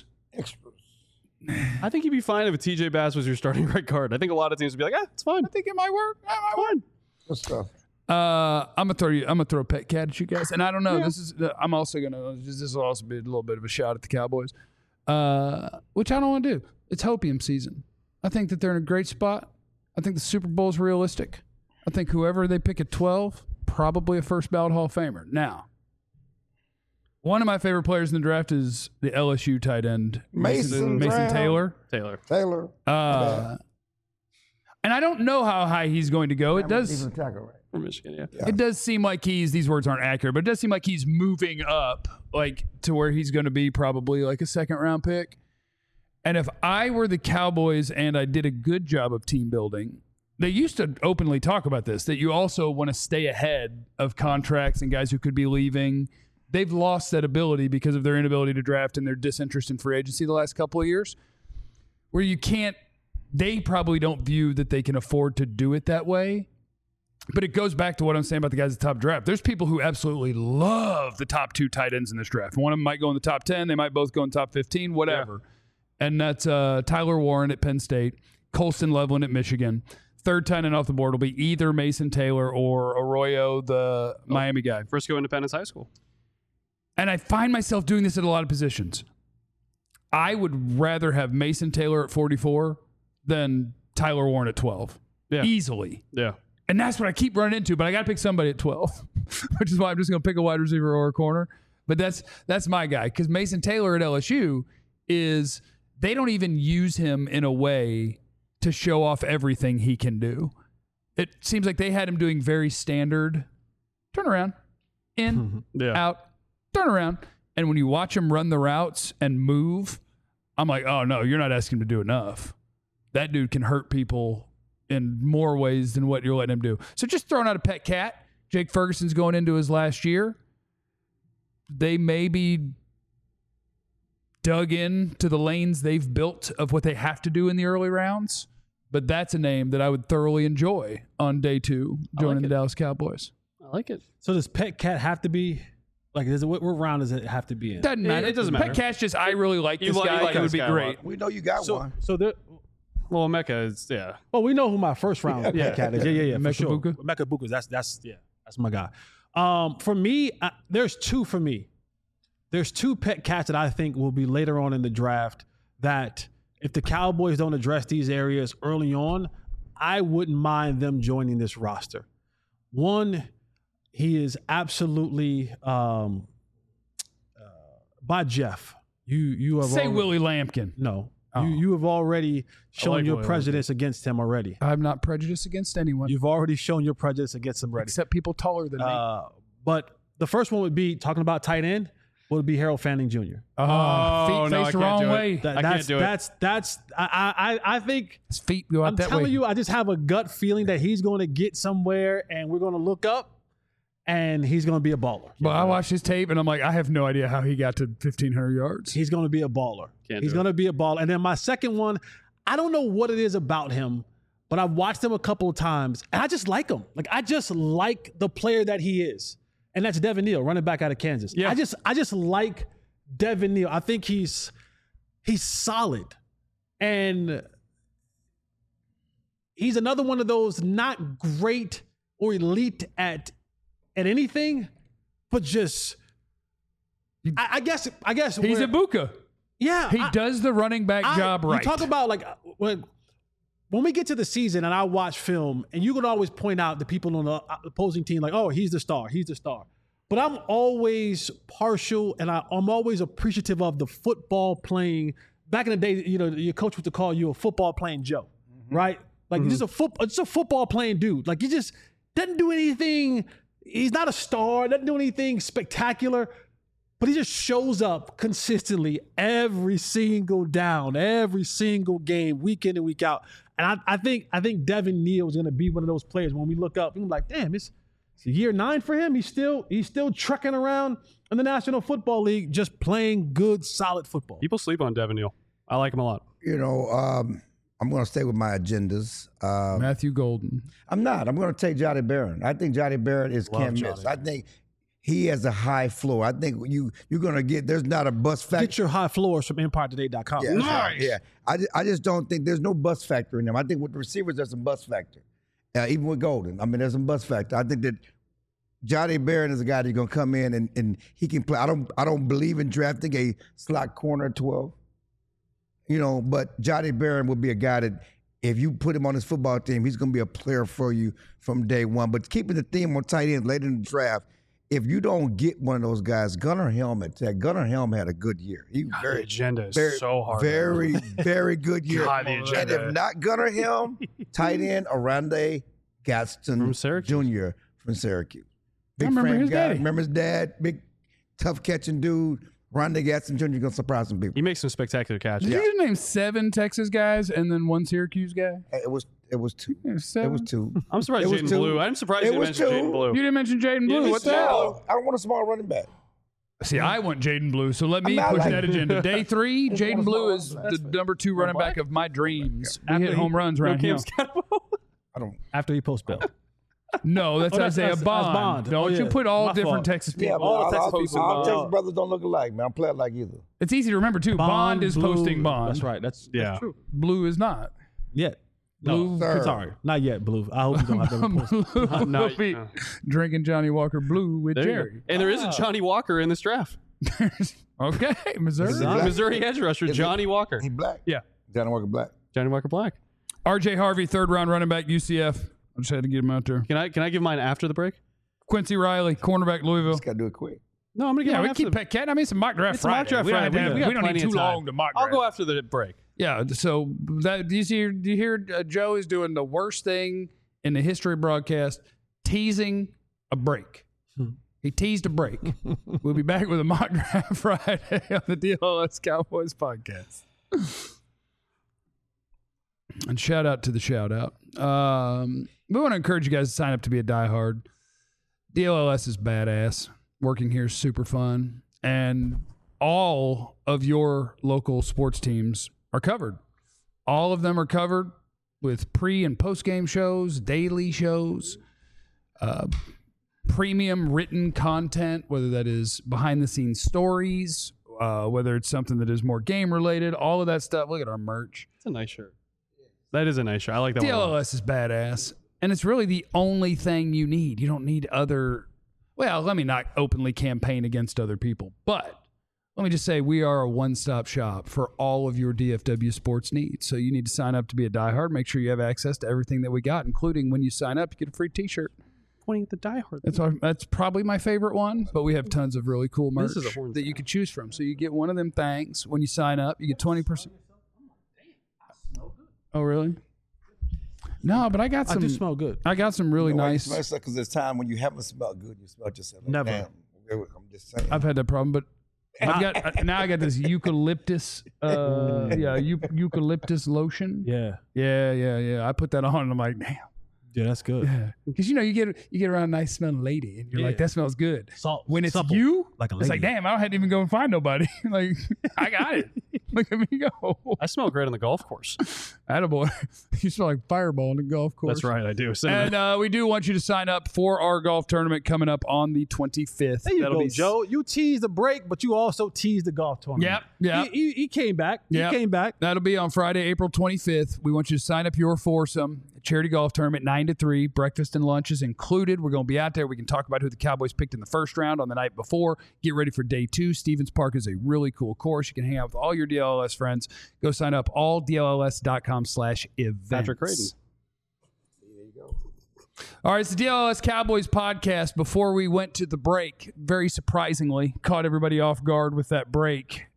I think you'd be fine if TJ Bass was your starting right guard. I think a lot of teams would be like, it's fine. I think it might work. It might work. Good stuff. I'm gonna throw a pet cat at you guys, and I don't know. I'm also gonna. This will also be a little bit of a shot at the Cowboys, which I don't want to do. It's hopium season. I think that they're in a great spot. I think the Super Bowl is realistic. I think whoever they pick at 12, probably a first ballot Hall of Famer. Now, one of my favorite players in the draft is the LSU tight end Mason Taylor. Taylor. And I don't know how high he's going to go. It does. Even tackle, right? From Michigan, yeah. It does seem like these words aren't accurate, but it does seem like he's moving up, like to where he's going to be probably like a 2nd round pick. And if I were the Cowboys and I did a good job of team building, they used to openly talk about this, that you also want to stay ahead of contracts and guys who could be leaving. They've lost that ability because of their inability to draft and their disinterest in free agency the last couple of years, where you can't, they probably don't view that they can afford to do it that way. But it goes back to what I'm saying about the guys at the top draft. There's people who absolutely love the top 2 tight ends in this draft. One of them might go in the top 10. They might both go in the top 15, whatever. Yeah. And that's Tyler Warren at Penn State, Colston Loveland at Michigan, third tight end off the board will be either Mason Taylor or Arroyo, the Miami guy. Frisco Independence High School. And I find myself doing this at a lot of positions. I would rather have Mason Taylor at 44 than Tyler Warren at 12. Yeah. Easily. Yeah. And that's what I keep running into, but I got to pick somebody at 12, which is why I'm just going to pick a wide receiver or a corner. But that's my guy, because Mason Taylor at LSU is they don't even use him in a way to show off everything he can do. It seems like they had him doing very standard turnaround, in, out, turnaround. And when you watch him run the routes and move, I'm like, oh, no, you're not asking him to do enough. That dude can hurt people in more ways than what you're letting him do. So just throwing out a pet cat. Jake Ferguson's going into his last year. They may be dug in to the lanes they've built of what they have to do in the early rounds. But that's a name that I would thoroughly enjoy on day 2 joining the Dallas Cowboys. I like it. So does Pet Cat have to be like? What round does it have to be in? Doesn't matter. It doesn't matter. Pet Cat's just I really like this guy. It would be great. We know you got one. So there. Well, Mecca is Well, we know who my first round Pet Cat is. Yeah. Mecca for sure. Buka? Mecca Buka. That's my guy. For me, there's two for me. There's 2 Pet Cats that I think will be later on in the draft that if the Cowboys don't address these areas early on, I wouldn't mind them joining this roster. One, he is absolutely by Jeff. You have Say already, Willie Lampkin. No. Oh. You have already shown like your Willie prejudice against him already. I'm not prejudiced against anyone. You've already shown your prejudice against him already. Except people taller than me. But the first one would be talking about tight end. Would be Harold Fanning Jr. Feet no, I face the can't wrong do it. way. That- I can't do it. I think His feet go out I'm that telling way. you, I just have a gut feeling that he's going to get somewhere, and we're going to look up, and he's going to be a baller. But I watched his tape, and I'm like, I have no idea how he got to 1,500 yards. He's going to be a baller. Can't He's do it. going to be a baller. And then my second one, I don't know what it is about him, but I've watched him a couple of times, and I just like him. Like I just like the player that he is, and that's Devin Neal, running back out of Kansas. Yeah. I just like Devin Neal. I think he's solid, and he's another one of those not great or elite at anything, but just I guess He's a Buka. yeah. He does the running back job right. You talk about like when we get to the season and I watch film, and you can always point out the people on the opposing team like, oh, he's the star. But I'm always partial, and I'm always appreciative of the football playing. Back in the day, you know, your coach used to call you a football playing Joe, right? Like just a football playing dude. Like he just doesn't do anything. He's not a star. Doesn't do anything spectacular, but he just shows up consistently every single down, every single game, week in and week out. And I think Devin Neal is going to be one of those players when we look up. We're like, damn, it's year 9 for him. He's still trekking around in the National Football League, just playing good, solid football. People sleep on Devin Neal. I like him a lot. You know, I'm going to stay with my agendas. Matthew Golden. I'm not. I'm going to take Jody Barron. I think Jody Barron is can't miss. I think he has a high floor. I think you're going to get, there's not a bust factor. Get your high floors from EmpireToday.com. Yeah, nice. Yeah. I just don't think there's no bust factor in them. I think with the receivers, there's some bust factor. Even with Golden. I mean, there's some bust factor. I think that Jody Barron is a guy that's going to come in and he can play. I don't believe in drafting a slot corner at 12. You know, but Jody Barron would be a guy that if you put him on his football team, he's going to be a player for you from day one. But keeping the theme on tight ends later in the draft, if you don't get one of those guys, Gunnar Helm had a good year. He The agenda is so hard. Very, very good year. God, the And agenda. if not Gunnar Helm, tight end Arande Gaston From Syracuse. Jr. from Syracuse. Big remember frame his guy. daddy. Remember his dad? Big, tough catching dude. Rondé Gaston Jr. going to surprise some people. He makes some spectacular catches. Did you just name 7 Texas guys and then 1 Syracuse guy? It was 2. Yeah, 7? It was 2. I'm surprised It was Jaden 2. Blue. I'm surprised It you was mentioned 2. Jaden Blue. You didn't mention Jaden Blue. Yeah, What the he's hell? I don't want a small running back. See, I want Jaden Blue, so let me I push like- that agenda. Day 3, Jaden Blue is That's the number 2 running back of my dreams. We hit he- home runs around here. I don't. After he posts Bill. No, that's Isaiah that's Bond. Bond. Don't Oh, you yeah. put all My different fault. Texas people. Yeah, but all all Texas Texas, people, Texas brothers don't look alike, man. I don't play it like either. It's easy to remember, too. Bond is Blue. posting Bond. That's right. That's Yeah. true. Blue is not. Yeah. Blue, Sir. Sorry, not yet, Blue. I hope you don't have to report. Blue will be drinking Johnny Walker Blue with There you Jerry. go. And there is a Johnny Walker in this draft. Okay, Missouri. Black? Missouri edge rusher, Johnny Walker. He black. Yeah. Johnny Walker black. Johnny Walker Black. R.J. Harvey, third round running back, UCF. I just had to get him out there. Can I give mine after the break? Quincy Riley, cornerback, Louisville. Just gotta do it quick. No, I'm gonna give Yeah, mine we after keep the Cat. I mean, it's a mock draft It's a mock Friday. draft We don't Friday. have to- We got we don't need plenty too of time. long to mock I'll draft. go after the break. Yeah, so that do you hear Joe is doing the worst thing in the history of broadcast, teasing a break. He teased a break. We'll be back with a mock draft Friday on the DLS Cowboys podcast. And shout out to the shout out. We want to encourage you guys to sign up to be a diehard. DLS is badass. Working here is super fun. And all of your local sports teams are covered. All of them are covered with pre- and post-game shows, daily shows, premium written content, whether that is behind-the-scenes stories, whether it's something that is more game-related, all of that stuff. Look at our merch. It's a nice shirt. That is a nice shirt. I like that one. a lot. DLS is badass. And it's really the only thing you need. You don't need other... Well, let me not openly campaign against other people, but let me just say we are a one-stop shop for all of your DFW sports needs. So you need to sign up to be a diehard. Make sure you have access to everything that we got, including when you sign up, you get a free T-shirt. Pointing at the diehard. That's probably my favorite one, but we have tons of really cool merch This is a horn that you could choose from. So you get one of them things. When you sign up, you get 20%. Oh, really? No, but I got some. I do smell good. I got some really nice. Because there's time when you haven't smelled good, you smell yourself. Like, Never. damn, I'm just saying. I've had that problem, but I've got now I got this eucalyptus, eucalyptus lotion. Yeah. Yeah. I put that on, and I'm like, damn. Yeah, that's good. Yeah, because you get around a nice smelling lady, and you're like, that smells good. Salt. When it's supple, you, like a it's like, lady. damn, I don't have to even go and find nobody. Like, I got it. Look at me go. I smell great on the golf course. Attaboy. You smell like Fireball on the golf course. That's right, I do. And we do want you to sign up for our golf tournament coming up on the 25th. There you That'll go, be Joe. You teased the break, but you also teased the golf tournament. Yep. He came back. Yep. He came back. That'll be on Friday, April 25th. We want you to sign up your foursome. Charity golf tournament, 9 to 3. Breakfast and lunch is included. We're going to be out there. We can talk about who the Cowboys picked in the first round on the night before. Get ready for day 2. Stevens Park is a really cool course. You can hang out with all your DLLS friends. Go sign up, alldlls.com/events. Patrick Creighton. All right, it's the DLS Cowboys podcast. Before we went to the break, very surprisingly, caught everybody off guard with that break.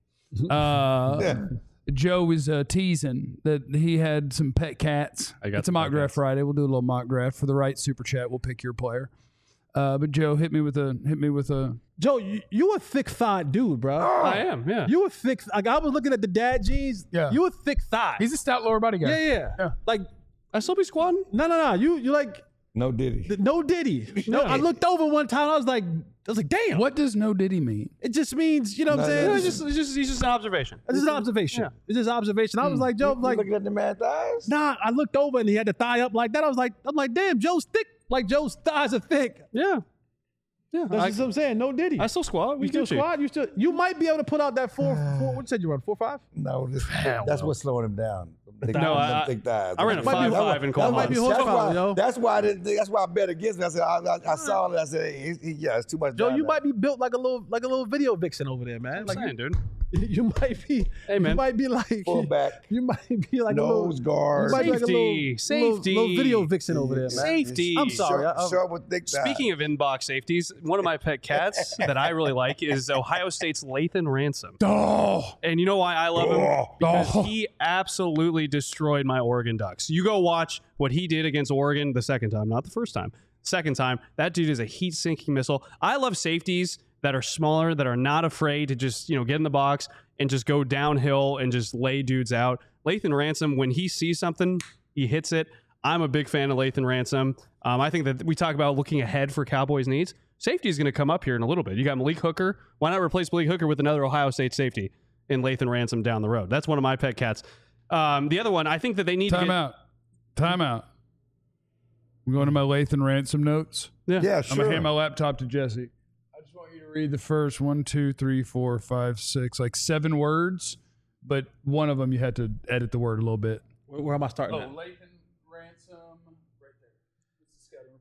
Joe was teasing that he had some pet cats. It's a mock draft Friday. We'll do a little mock draft for the right super chat. We'll pick your player. But Joe hit me with a. Joe, you a thick thigh dude, bro. I am, yeah. You a thick. Like I was looking at the dad jeans. Yeah. You a thick thigh. He's a stout lower body guy. Yeah. Like I still be squatting. no. You like No Diddy. no Diddy. No. I looked over one time. I was like, damn. What does no Diddy mean? It just means, you know what I'm saying? No, It's it's just an observation. it's just an observation. Yeah. It's just observation. I was like, Joe, You like, looking at the man's eyes? nah. I looked over and he had the thigh up like that. I'm like, damn, Joe's thick. Like Joe's thighs are thick. Yeah. That's just what I'm saying. No Diddy. I still squat. You still squat? You might be able to put out that four. What said you run? 4.5? No, that's what's slowing him down. No, thick thighs. I ran a Might be 5.5 in that might be quad. horsepower, yo. That's why I bet against him. I said I saw it. I said it's too much. Joe, down you there. might be built like a little video vixen over there, man. I'm Like saying, dude. you might be. Hey, man. You might be like Fullback. You might be like Nose a guard. little. You might be like a Safety. little video vixen over there, man. Safety. I'm sorry. Short with thick thighs. Speaking of inbox safeties, one of my pet cats that I really like is Ohio State's Lathan Ransom. Oh, And you know why I love him? Oh. Because Oh. he absolutely destroyed my Oregon Ducks. You go watch what he did against Oregon the second time, not the first time. Second time, that dude is a heat-sinking missile. I love safeties that are smaller, that are not afraid to just, get in the box and just go downhill and just lay dudes out. Lathan Ransom, when he sees something, he hits it. I'm a big fan of Lathan Ransom. I think that we talk about looking ahead for Cowboys needs. Safety is going to come up here in a little bit. You got Malik Hooker. Why not replace Malik Hooker with another Ohio State safety in Lathan Ransom down the road? That's one of my pet cats. The other one, I think that they need to time out. I'm going to my Lathan Ransom notes. Yeah, I'm going sure. to hand my laptop to Jesse. I just want you to read the first 1, 2, 3, 4, 5, 6, like 7 words, but one of them you had to edit the word a little bit. Where am I starting? at?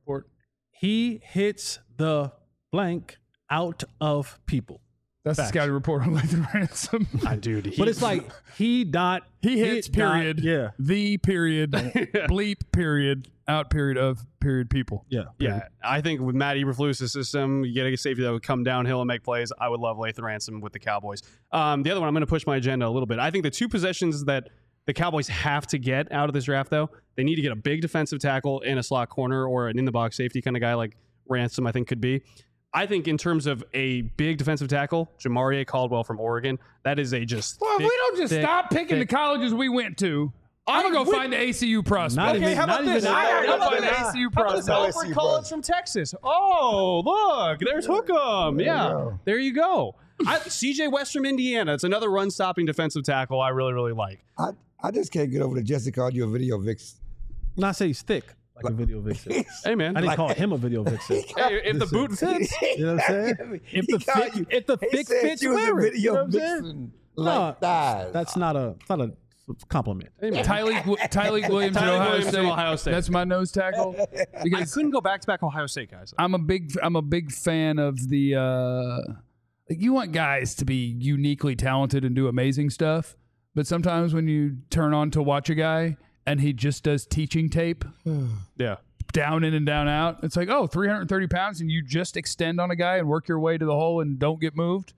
report. He hits the blank out of people. That's Facts. the scouting report on Lathan Ransom. Dude, But it's like he hits period. Yeah. The period. Bleep period. Out period of period people. Yeah. Yeah, I think with Matt Eberflus's system, you get a safety that would come downhill and make plays. I would love Lathan Ransom with the Cowboys. The other one, I'm going to push my agenda a little bit. I think the two possessions that the Cowboys have to get out of this draft, though, they need to get a big defensive tackle in a slot corner or an in-the-box safety kind of guy like Ransom, I think, could be. I think in terms of a big defensive tackle, Jamarie Caldwell from Oregon, that is a just Well, if thick, we don't just thick, stop picking the colleges we went to, I'm going to go find the ACU prospect. Not even- how about not this? even- I'm find the ACU prospect. Alfred Collins from Texas. Oh, look, there's Hookem. Yeah, there you go. CJ West from Indiana. It's another run-stopping defensive tackle I really, really like. I just can't get over that Jesse called you a video vixen. Not say he's thick like a video vixen. Hey, man. I didn't call him a video vixen. Hey, if the boot fits, You know what I'm saying? If the thick fits, you was wear a it. You know video what I'm saying? vixen. No, Like thighs. that's not a compliment. Tyleek Williams at Tyleek Williams at Ohio State. That's my nose tackle. I Because couldn't go back-to-back Ohio State guys. I'm a big fan of the. You want guys to be uniquely talented and do amazing stuff, but sometimes when you turn on to watch a guy and he just does teaching tape, Yeah. down in and down out, it's like, 330 pounds, and you just extend on a guy and work your way to the hole and don't get moved.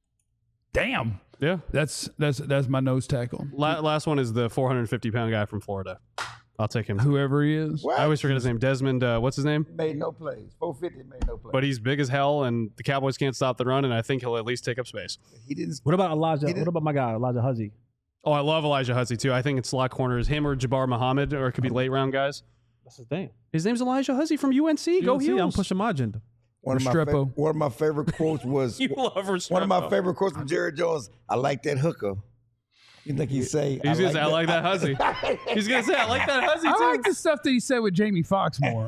Damn, Yeah. that's my nose tackle. Last one is the 450-pound guy from Florida. I'll take him. Whoever he is. What? I always forget his name. Desmond, what's his name? Made no plays. 450 made no plays. But he's big as hell, and the Cowboys can't stop the run, and I think he'll at least take up space. He didn't. What about Elijah? He did- What about my guy, Elijah Huzzy? Oh, I love Elijah Hussey, too. I think it's slot corners, him or Jabbar Muhammad, or it could be late-round guys. That's his name. His name's Elijah Hussey from UNC. Go See, I'm Heels. pushing my agenda. One of my favorite quotes was You love Restrepo. one of my favorite quotes from Jerry Jones. I like that hooker. You think he'd say? He's going to say, I like that Hussey. He's going to say, I like that Hussey, too. I like the stuff that he said with Jamie Foxx more.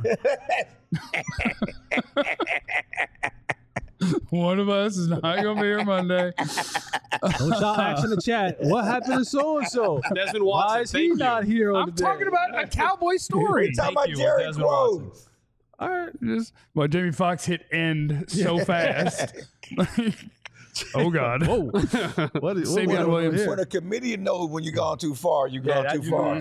One of us is not going to be here Monday. Don't y'all ask in the chat. What happened to so and so? Desmond Watson, Why is he thank you. not here on I'm the day? talking about a cowboy story. We're talking Thank about you, Jerry Desmond Watson. quotes. All right, Jamie Foxx hit end so fast. Oh God! Whoa. What is Savion Williams. When a comedian knows when you've gone too far, you've gone too far.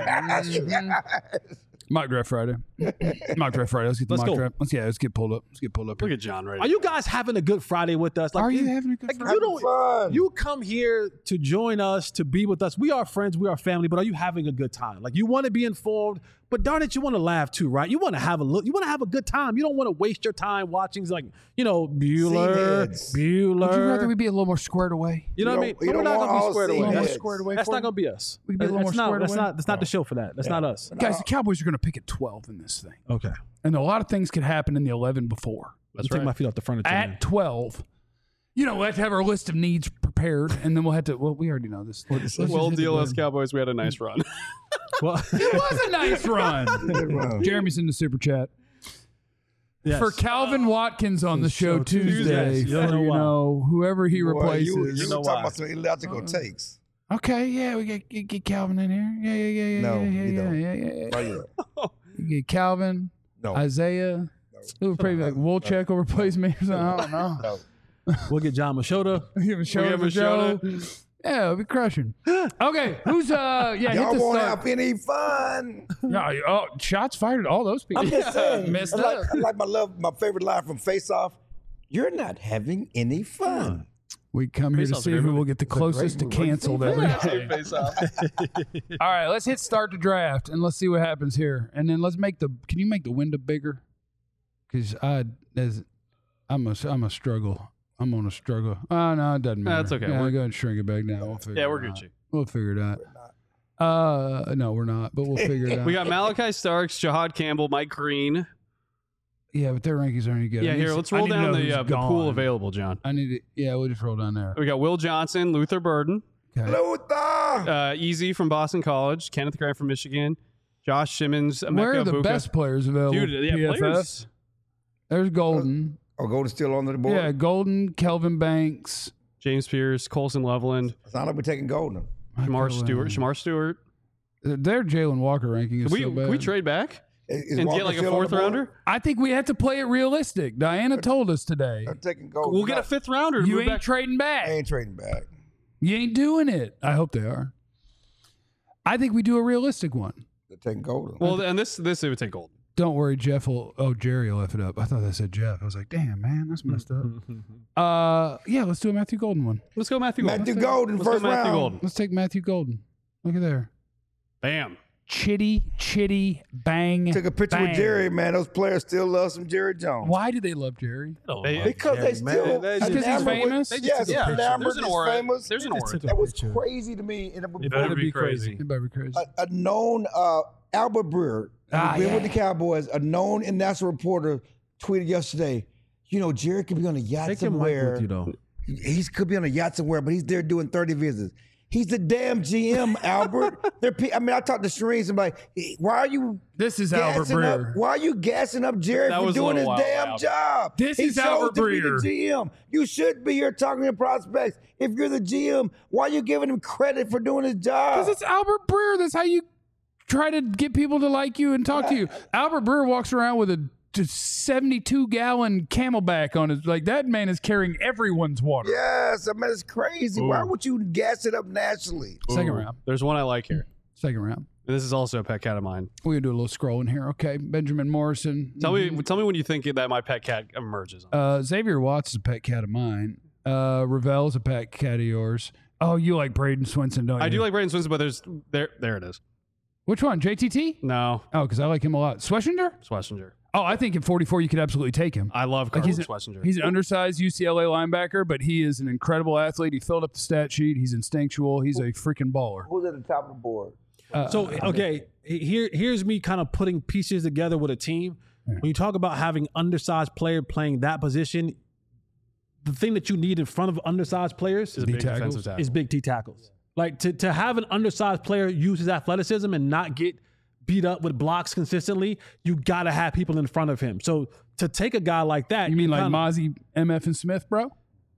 Mock draft Friday. Mock draft Friday. Let's get the Let's mock go. draft. Let's get pulled up. Let's get pulled up. Look Here. at John right Are you guys having a good Friday with us? Like, Are you having a good like, Friday? you don't. Fun. You come here to join us, to be with us. We are friends, we are family, but are you having a good time? Like, you want to be informed, but darn it, you want to laugh too, right? You want to have a look. You want to have a good time. You don't want to waste your time watching, like, Bueller, Seaheads. Bueller. Would you rather we be a little more squared away? You know what I mean? You But we're don't not want gonna be all squared away. seaheads. More Yes. squared away. That's for not you? gonna be us. We can be a little That's more not. squared That's away. not. That's not the show for that. That's not us. Guys, the Cowboys are going to pick at 12 in this thing, Okay. and a lot of things could happen in the 11 before. Let's take my feet off the furniture. man. At 12, we'll have to have our list of needs prepared, and then we'll have to. Well, we already know this. Let's just Well, hit the DLS button. Cowboys, we had a nice run. Well, It was a nice run. Jeremy's in the super chat. yes. For Calvin Watkins on the show Tuesday, You don't for, know why. whoever he Boy, replaces. you know talking why. about some illogical takes. Okay, yeah, we get Calvin in here. Yeah. No, yeah, you don't. Yeah. Why you? You get Calvin, No. Isaiah. It would probably be like Wolchek will replace me or something. I don't know. No. We'll get John Machota. Give him a show for Joe. Yeah, it'll be crushing. Okay, who's Y'all hit the won't start. have any fun. No, shots fired at all those people. I'm just saying. Messed I up. like my favorite line from Face Off. You're not having any fun. We come here to Face-Off's see a great who will movie. get the It's a great closest to movie. canceled every day. Face off. All right, let's hit start the draft and let's see what happens here. And then let's make can you make the window bigger? Because I'm a struggle. I'm on a struggle. Oh no, it doesn't matter. That's okay. Yeah, We're- go ahead and shrink it back now. We'll figure Yeah, it we're out. Gucci. We'll figure it out. No, we're not, but we'll figure it out. We got Malachi Starks, Jahad Campbell, Mike Green. Yeah, but their rankings aren't any good. Yeah, here, let's roll down the pool available, John. I need it. Yeah, we'll just roll down there. We got Will Johnson, Luther Burden, Okay. Luther. Easy from Boston College, Kenneth Grant from Michigan, Josh Simmons, Emeka Where are the Egbuka. best players available? Dude, yeah, PFF? players. There's Golden. Oh, Golden's still on the board? Yeah, Golden, Kelvin Banks. James Pierce, Colson Loveland, It's not like we're taking Golden. Shamar Stewart. Their Jalen Walker ranking is Can we, so bad. can we trade back? And get like a fourth rounder? I think we have to play it realistic. Diana told us today. I'm taking Golden. We'll get a fifth rounder. You ain't trading back. I ain't trading back. You ain't doing it. I hope they are. I think we do a realistic one. They're taking Golden. Well, and this it would take Golden. Don't worry, Jeff will. Oh, Jerry will F it up. I thought that said Jeff. I was like, damn, man, that's messed up. Yeah, let's do a Matthew Golden one. Let's go Matthew Golden. Matthew Golden, Let's go first Matthew round. Golden. Let's take Matthew Golden. Look at there. Bam. Chitty, bang. Took a picture bang. with Jerry, man. Those players still love some Jerry Jones. Why do they love Jerry? Because they still man. Because he's enamored with- famous? Yes, Yeah, enamored, there's an he's aura. famous. There's an aura. That was crazy to me. And It better be crazy. It better be crazy. a known Albert Breer, who's been with the Cowboys, a known national reporter, tweeted yesterday, Jerry could be on a yacht Take your mic somewhere. with you, though. He could be on a yacht somewhere, but he's there doing 30 visits. He's the damn GM, Albert. I talked to Shereen, and like, why are you This is Albert gassing up? Breer. Why are you gassing up Jerry That for was a doing his little wild, damn Albert. job? This he is chose Albert to be the Breer. GM. You should be here talking to prospects. If you're the GM, why are you giving him credit for doing his job? Because it's Albert Breer. That's how you try to get people to like you and talk to you. Albert Breer walks around with a 72-gallon Camelback on his. Like, that man is carrying everyone's water. Yes, it's crazy. Why would you gas it up nationally? Second round. There's one I like here. Second round. And this is also a pet cat of mine. We're going to do a little scrolling here. Okay. Benjamin Morrison. Tell me when you think that my pet cat emerges. Xavier Watts is a pet cat of mine. Ravel's a pet cat of yours. Oh, you like Braden Swinson, don't you? I do like Brandon Swinson, but there it is. Which one? JTT? No, Oh, because I like him a lot. Schlesinger? Schlesinger. Oh, I think at 44 you could absolutely take him. I love Like, Carlos Schlesinger. He's an undersized UCLA linebacker, but he is an incredible athlete. He filled up the stat sheet. He's instinctual. He's a freaking baller. Who's at the top of the board? Here's me kind of putting pieces together with a team. When you talk about having undersized player playing that position, the thing that you need in front of undersized players Is a D big tackles. defensive tackle. is big T tackles. Like to have an undersized player use his athleticism and not get beat up with blocks consistently, you got to have people in front of him. So to take a guy like that, You mean like kinda- Mozzie, MF, and Smith, bro?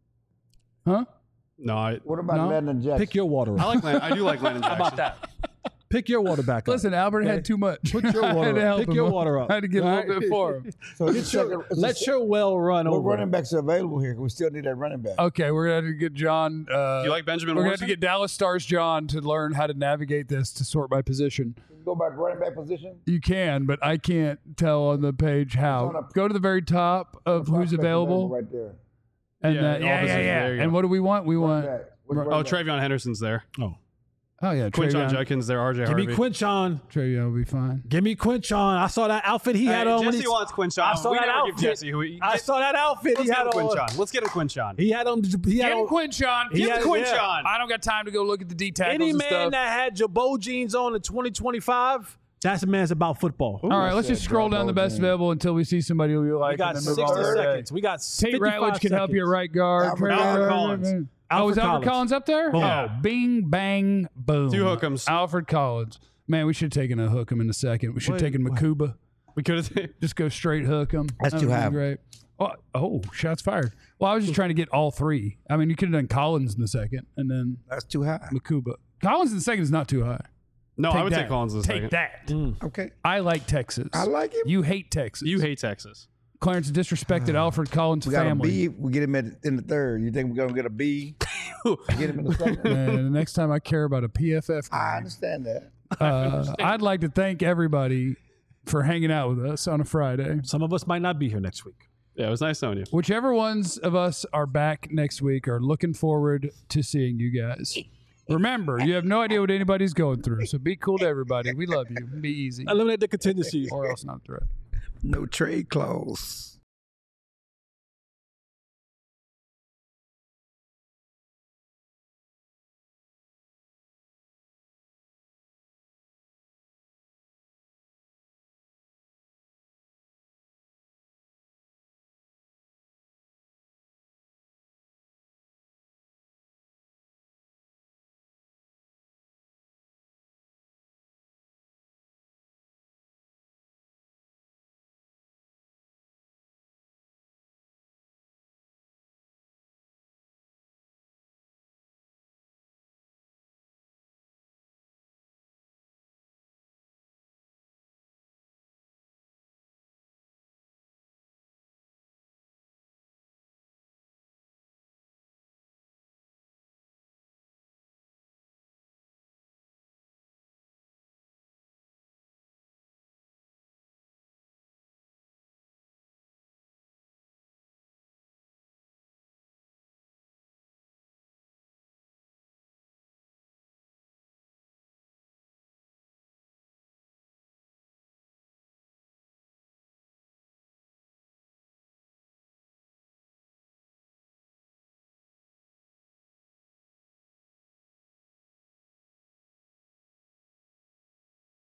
Huh? No, I What about No. Landon Jackson? pick your water I up. like I do like Landon Jackson. How about that? Pick your water back up. Listen, Albert had too much. Put your I had water to up. help Pick him. your water up. I had to get a little bit for him. So it's Let your well run what over. running backs are available here? We still need that running back. Okay, we're going to have to get John. Do you like Benjamin We're going to have to Morrison? get Dallas Stars John to learn how to navigate this to sort by position. Go back to running back position. You can, but I can't tell on the page how. on a- Go to the very top of who's Prospect available. right there. And Yeah, yeah, all positions. There you go. And what do we want? We want. Back. Which Oh, running back? Travion Henderson's there. Oh yeah, Quinshon Travion. Judkins there. RJ Give Harvey. me Quinchon. Travion will be fine. Give me Quinchon. I saw that outfit he had on. when Jesse he, wants Quinshon. I saw we that never give outfit. Jesse who he, I saw that outfit Let's he had get him on. Quinshon. Let's get him Quinshon. He had on. He had Get him on. Quinshon. He Get had- him yeah. Quinshon. I don't got time to go look at the D tackles Any and man stuff. that had Jabot jeans on in 2025, that's a man's about football. All right, let's just scroll down the best available until we see somebody who we like. We got and then 60 move on. seconds. We got Tate 55 Ratledge can help you at seconds. right guard. Alfred Collins. Oh, is Alfred Alfred Collins up there? Boom. Oh, bing, bang, boom. Two hook'ems. Alfred Collins. Man, we should have taken a hook 'em in a second. We should have taken Makuba. We could have. Just go straight hook 'em. That's That too would be high. Great. Oh, shots fired. Well, I was just trying to get all three. I mean, you could have done Collins in the second and then That's too high. Makuba. Collins in the second is not too high. No, I would that. take Collins in the Take second. that. Okay. I like Texas. I like him. You hate Texas. You hate Texas. Clarence disrespected Alfred Collins' We got family. a B. We get him in the third. You think we're gonna get a B? Get him in the second. And the next time I care about a PFF, I understand that. I'd like to thank everybody for hanging out with us on a Friday. Some of us might not be here next week. Yeah, it was nice knowing you. Whichever ones of us are back next week are looking forward to seeing you guys. Remember, you have no idea what anybody's going through, so be cool to everybody. We love you. Be easy. Eliminate the contingencies. Or else not a threat. No trade clause.